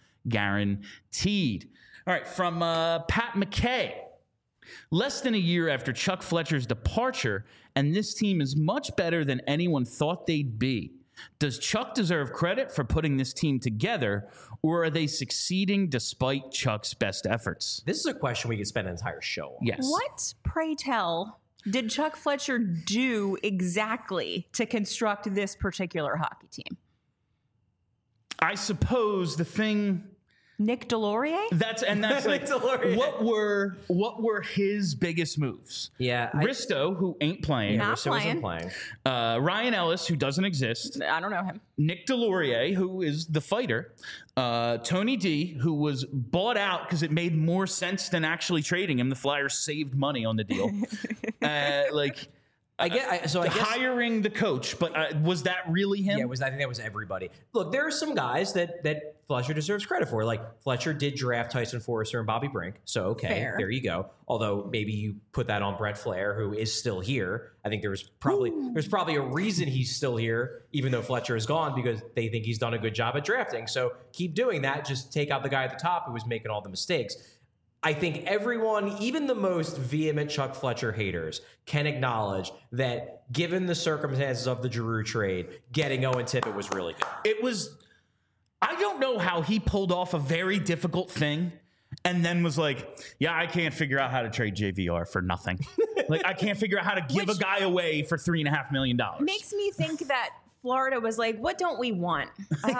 [SPEAKER 1] guaranteed. All right, from uh, Pat McKay. Less than a year after Chuck Fletcher's departure, and this team is much better than anyone thought they'd be. Does Chuck deserve credit for putting this team together, or are they succeeding despite Chuck's best efforts?
[SPEAKER 2] This is a question we could spend an entire show on.
[SPEAKER 1] Yes.
[SPEAKER 3] What, pray tell, did Chuck Fletcher do exactly to construct this particular hockey team?
[SPEAKER 1] I suppose the thing
[SPEAKER 3] Nick Delorier?
[SPEAKER 1] that's and that's like
[SPEAKER 2] Delorier.
[SPEAKER 1] what were what were his biggest moves?
[SPEAKER 2] Yeah. I-
[SPEAKER 1] Risto, who ain't playing,
[SPEAKER 3] Not
[SPEAKER 2] Russo wasn't
[SPEAKER 3] playing.
[SPEAKER 2] playing.
[SPEAKER 1] uh, Ryan Ellis, who doesn't exist,
[SPEAKER 3] I don't know him.
[SPEAKER 1] Nick Delorier, who is the fighter, uh, Tony D, who was bought out because it made more sense than actually trading him. The Flyers saved money on the deal. uh, like
[SPEAKER 2] I get. I, so I guess.
[SPEAKER 1] hiring the coach, but uh, was that really him?
[SPEAKER 2] Yeah, it was. I think that was everybody. Look, there are some guys that that Fletcher deserves credit for. Like Fletcher did draft Tyson Forrester and Bobby Brink, so okay,
[SPEAKER 3] Fair.
[SPEAKER 2] there you go. Although maybe you put that on Brett Flair, who is still here. I think there was probably there's probably a reason he's still here, even though Fletcher is gone, because they think he's done a good job at drafting. So keep doing that. Just take out the guy at the top who was making all the mistakes. I think everyone, even the most vehement Chuck Fletcher haters, can acknowledge that given the circumstances of the Giroux trade, getting Owen Tippett was really good.
[SPEAKER 1] It was. I don't know how he pulled off a very difficult thing and then was like, yeah, I can't figure out how to trade J V R for nothing. Like, I can't figure out how to give
[SPEAKER 3] Which-
[SPEAKER 1] a guy away for three and a half million dollars.
[SPEAKER 3] Makes me think that Florida was like, what don't we want? Uh,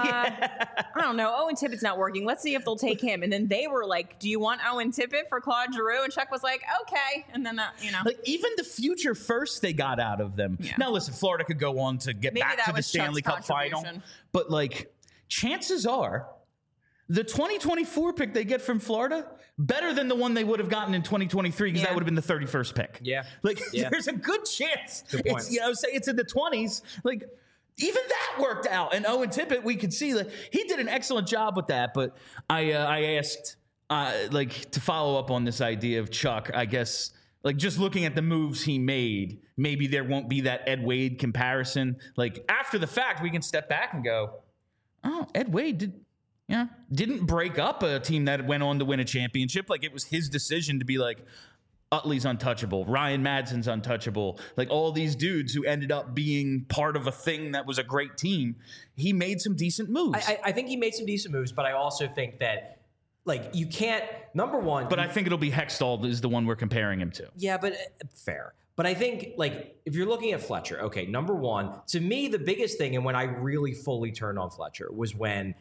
[SPEAKER 3] I don't know. Owen Tippett's not working. Let's see if they'll take him. And then they were like, do you want Owen Tippett for Claude Giroux? And Chuck was like, okay. And then that, you know.
[SPEAKER 1] Like, even the future first they got out of them.
[SPEAKER 3] Yeah.
[SPEAKER 1] Now, listen, Florida could go on to get
[SPEAKER 3] Maybe
[SPEAKER 1] back
[SPEAKER 3] that
[SPEAKER 1] to the
[SPEAKER 3] was
[SPEAKER 1] Stanley
[SPEAKER 3] Chuck's
[SPEAKER 1] Cup final.
[SPEAKER 3] contribution.
[SPEAKER 1] But, like, chances are the twenty twenty-four pick they get from Florida better than the one they would have gotten in twenty twenty-three because
[SPEAKER 3] Yeah.
[SPEAKER 1] that would have been the thirty-first pick.
[SPEAKER 2] Yeah.
[SPEAKER 1] Like,
[SPEAKER 2] Yeah.
[SPEAKER 1] there's a good chance.
[SPEAKER 2] Good point.
[SPEAKER 1] It's, you know, say it's in the twenties. Like, even that worked out. And Owen Tippett, we could see, like, he did an excellent job with that. But I, uh, I asked, uh, like, to follow up on this idea of Chuck, I guess, like, just looking at the moves he made, maybe there won't be that Ed Wade comparison. Like, after the fact, we can step back and go, oh, Ed Wade did, yeah, didn't break up a team that went on to win a championship. Like, it was his decision to be like, Utley's untouchable. Ryan Madsen's untouchable. Like, all these dudes who ended up being part of a thing that was a great team. He made some decent moves.
[SPEAKER 2] I, I think he made some decent moves, but I also think that, like, you can't, number one.
[SPEAKER 1] but I think it'll be Hextall is the one we're comparing him to.
[SPEAKER 2] Yeah, but uh, fair. But I think, like, if you're looking at Fletcher, okay, number one, to me, the biggest thing, and when I really fully turned on Fletcher, was when,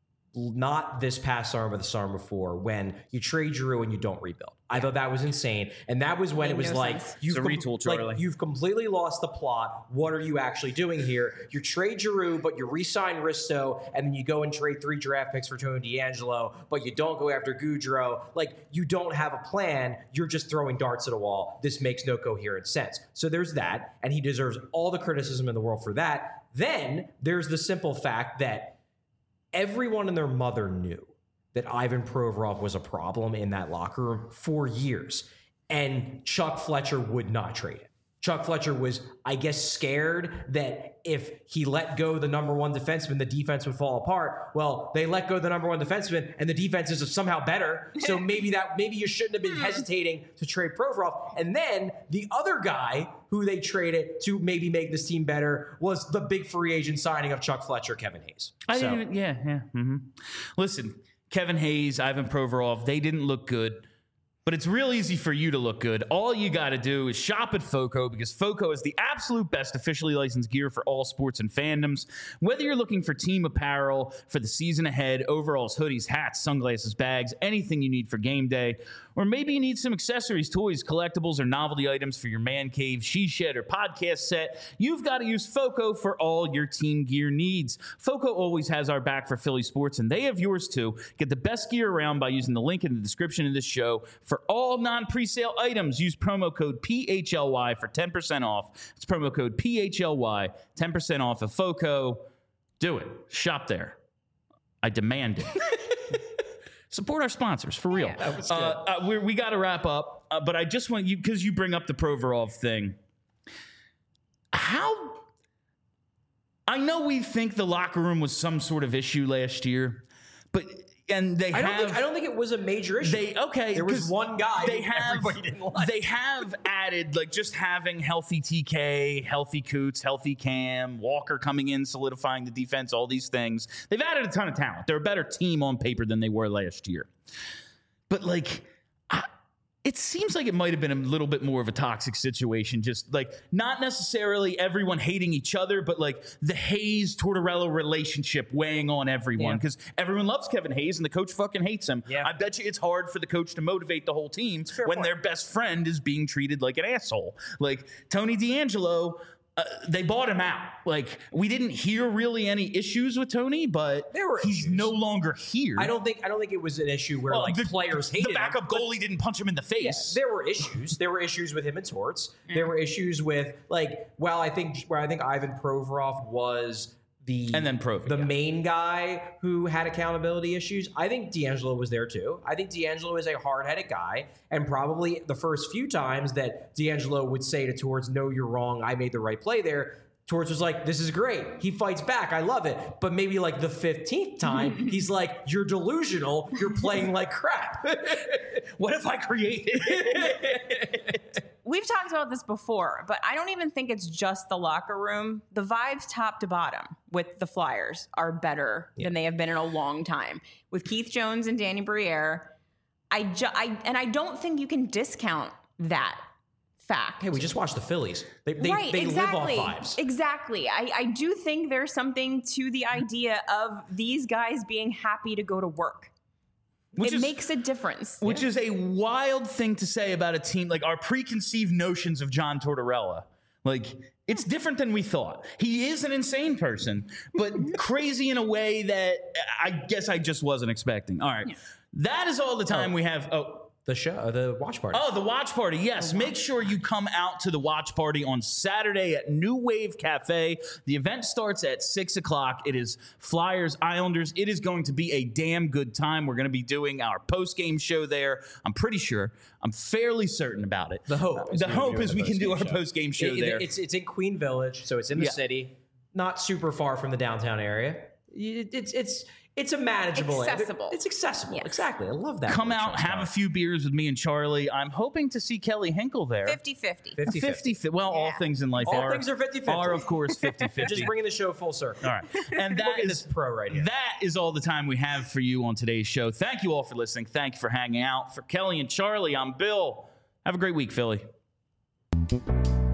[SPEAKER 2] not this past summer, but the summer before, when you trade Giroux and you don't rebuild. I thought that was insane. And that was when
[SPEAKER 3] Made
[SPEAKER 2] it was
[SPEAKER 3] no
[SPEAKER 2] like,
[SPEAKER 3] sense.
[SPEAKER 2] you've,
[SPEAKER 1] It's a
[SPEAKER 2] com-
[SPEAKER 1] retool, Charlie.
[SPEAKER 2] like, you've completely lost the plot. What are you actually doing here? You trade Giroux, but you re-sign Risto, and then you go and trade three draft picks for Tony D'Angelo, but you don't go after Goudreau. Like, you don't have a plan. You're just throwing darts at a wall. This makes no coherent sense. So there's that, and he deserves all the criticism in the world for that. Then there's the simple fact that everyone and their mother knew that Ivan Provorov was a problem in that locker room for years. And Chuck Fletcher would not trade it. Chuck Fletcher was, I guess, scared that if he let go the number one defenseman, the defense would fall apart. Well, they let go the number one defenseman, and the defense is somehow better. So maybe that maybe you shouldn't have been hesitating to trade Provorov. And then the other guy who they traded to maybe make this team better was the big free agent signing of Chuck Fletcher, Kevin Hayes.
[SPEAKER 1] I
[SPEAKER 2] So-
[SPEAKER 1] didn't. Yeah, yeah. Mm-hmm. Listen, Kevin Hayes, Ivan Provorov, they didn't look good. But it's real easy for you to look good. All you got to do is shop at FOCO, because FOCO is the absolute best officially licensed gear for all sports and fandoms. Whether you're looking for team apparel for the season ahead, overalls, hoodies, hats, sunglasses, bags, anything you need for game day, or maybe you need some accessories, toys, collectibles, or novelty items for your man cave, she shed, or podcast set, you've got to use FOCO for all your team gear needs. FOCO always has our back for Philly sports, and they have yours too. Get the best gear around by using the link in the description of this show. For all non-presale items, use promo code P H L Y for ten percent off. It's promo code P H L Y, ten percent off of FOCO. Do it. Shop there. I demand it. Support our sponsors, for real.
[SPEAKER 3] Yeah,
[SPEAKER 2] that was good.
[SPEAKER 1] Uh, uh, we we got to wrap up, uh, but I just want you, because you bring up the Provorov thing. How? I know we think the locker room was some sort of issue last year, but and they
[SPEAKER 2] I don't
[SPEAKER 1] have.
[SPEAKER 2] think I don't think it was a major issue.
[SPEAKER 1] They okay.
[SPEAKER 2] There was
[SPEAKER 1] 'cause
[SPEAKER 2] one guy
[SPEAKER 1] They
[SPEAKER 2] who
[SPEAKER 1] have.
[SPEAKER 2] everybody didn't like.
[SPEAKER 1] They have added, like, just having healthy T K, healthy Coots, healthy Cam, Walker coming in, solidifying the defense. All these things. They've added a ton of talent. They're a better team on paper than they were last year. But like, I, it seems like it might have been a little bit more of a toxic situation. Just like, not necessarily everyone hating each other, but like the Hayes Tortorella relationship weighing on everyone,
[SPEAKER 2] Yeah.
[SPEAKER 1] because everyone loves Kevin Hayes and the coach fucking hates him.
[SPEAKER 2] Yeah.
[SPEAKER 1] I bet you it's hard for the coach to motivate the whole team when
[SPEAKER 2] point.
[SPEAKER 1] their best friend is being treated like an asshole. Like Tony D'Angelo. Uh, they bought him out. Like, we didn't hear really any issues with Tony, but
[SPEAKER 2] There were
[SPEAKER 1] he's
[SPEAKER 2] issues.
[SPEAKER 1] no longer here.
[SPEAKER 2] I don't think I don't think it was an issue where
[SPEAKER 1] Well,
[SPEAKER 2] like
[SPEAKER 1] the,
[SPEAKER 2] players hated
[SPEAKER 1] the backup
[SPEAKER 2] him, but-
[SPEAKER 1] goalie didn't punch him in the
[SPEAKER 2] Yeah,
[SPEAKER 1] face.
[SPEAKER 2] there were issues. There were issues with him and Torts. There were issues with like, well, I think where I think Ivan Provorov was the
[SPEAKER 1] And then Provi,
[SPEAKER 2] the
[SPEAKER 1] yeah.
[SPEAKER 2] main guy who had accountability issues. I think D'Angelo was there too. I think D'Angelo is a hard-headed guy, and probably the first few times that D'Angelo would say to Torts, "No, you're wrong. I made the right play there." Torts was like, "This is great." He fights back. I love it. But maybe like the fifteenth time, he's like, "You're delusional. You're playing like crap."
[SPEAKER 1] What if I created?
[SPEAKER 3] We've talked about this before, but I don't even think it's just the locker room. The vibes top to bottom with the Flyers are better
[SPEAKER 2] Yeah.
[SPEAKER 3] than they have been in a long time. With Keith Jones and Danny Briere, I, ju- I and I don't think you can discount that fact.
[SPEAKER 2] Hey, we just watched the Phillies. They they,
[SPEAKER 3] right,
[SPEAKER 2] they
[SPEAKER 3] exactly.
[SPEAKER 2] live off vibes.
[SPEAKER 3] Exactly. I, I do think there's something to the idea of these guys being happy to go to work.
[SPEAKER 1] Which
[SPEAKER 3] it
[SPEAKER 1] is-
[SPEAKER 3] makes a difference.
[SPEAKER 1] Which is a wild thing to say about a team, like our preconceived notions of John Tortorella. Like, it's different than we thought. He is an insane person, but crazy in a way that I guess I just wasn't expecting. All right. That is all the time we have. Oh,
[SPEAKER 2] The show, uh, the watch party.
[SPEAKER 1] Oh, the watch party. Yes. Make sure you come out to the watch party on Saturday at New Wave Cafe. The event starts at six o'clock. It is Flyers Islanders. It is going to be a damn good time. We're going to be doing our post-game show there. I'm pretty sure. I'm fairly certain about it.
[SPEAKER 2] The hope.
[SPEAKER 1] The
[SPEAKER 2] we
[SPEAKER 1] hope
[SPEAKER 2] do
[SPEAKER 1] is
[SPEAKER 2] the
[SPEAKER 1] we can do our
[SPEAKER 2] post-game show.
[SPEAKER 1] post-game show
[SPEAKER 2] It- it-
[SPEAKER 1] there.
[SPEAKER 2] It's it's in Queen Village, so it's in the
[SPEAKER 1] Yeah.
[SPEAKER 2] city, not super far from the downtown area. It- It's it's it's a manageable area.
[SPEAKER 3] Accessible.
[SPEAKER 2] It's accessible.
[SPEAKER 3] Yes.
[SPEAKER 2] Exactly. I love that.
[SPEAKER 1] Come
[SPEAKER 2] word,
[SPEAKER 1] out,
[SPEAKER 2] Sean
[SPEAKER 1] have a
[SPEAKER 2] Scott.
[SPEAKER 1] few beers with me and Charlie. I'm hoping to see Kelly Hinkle there.
[SPEAKER 3] fifty-fifty.
[SPEAKER 2] fifty
[SPEAKER 1] fifty. Well, all
[SPEAKER 3] Yeah.
[SPEAKER 1] things in life
[SPEAKER 2] All
[SPEAKER 1] are,
[SPEAKER 2] things are fifty-fifty.
[SPEAKER 1] are, of course, fifty-fifty.
[SPEAKER 2] Just bringing the show full circle.
[SPEAKER 1] All right. And that
[SPEAKER 2] Look at
[SPEAKER 1] is
[SPEAKER 2] this pro right here.
[SPEAKER 1] That is all the time we have for you on today's show. Thank you all for listening. Thank you for hanging out. For Kelly and Charlie, I'm Bill. Have a great week, Philly. Bye.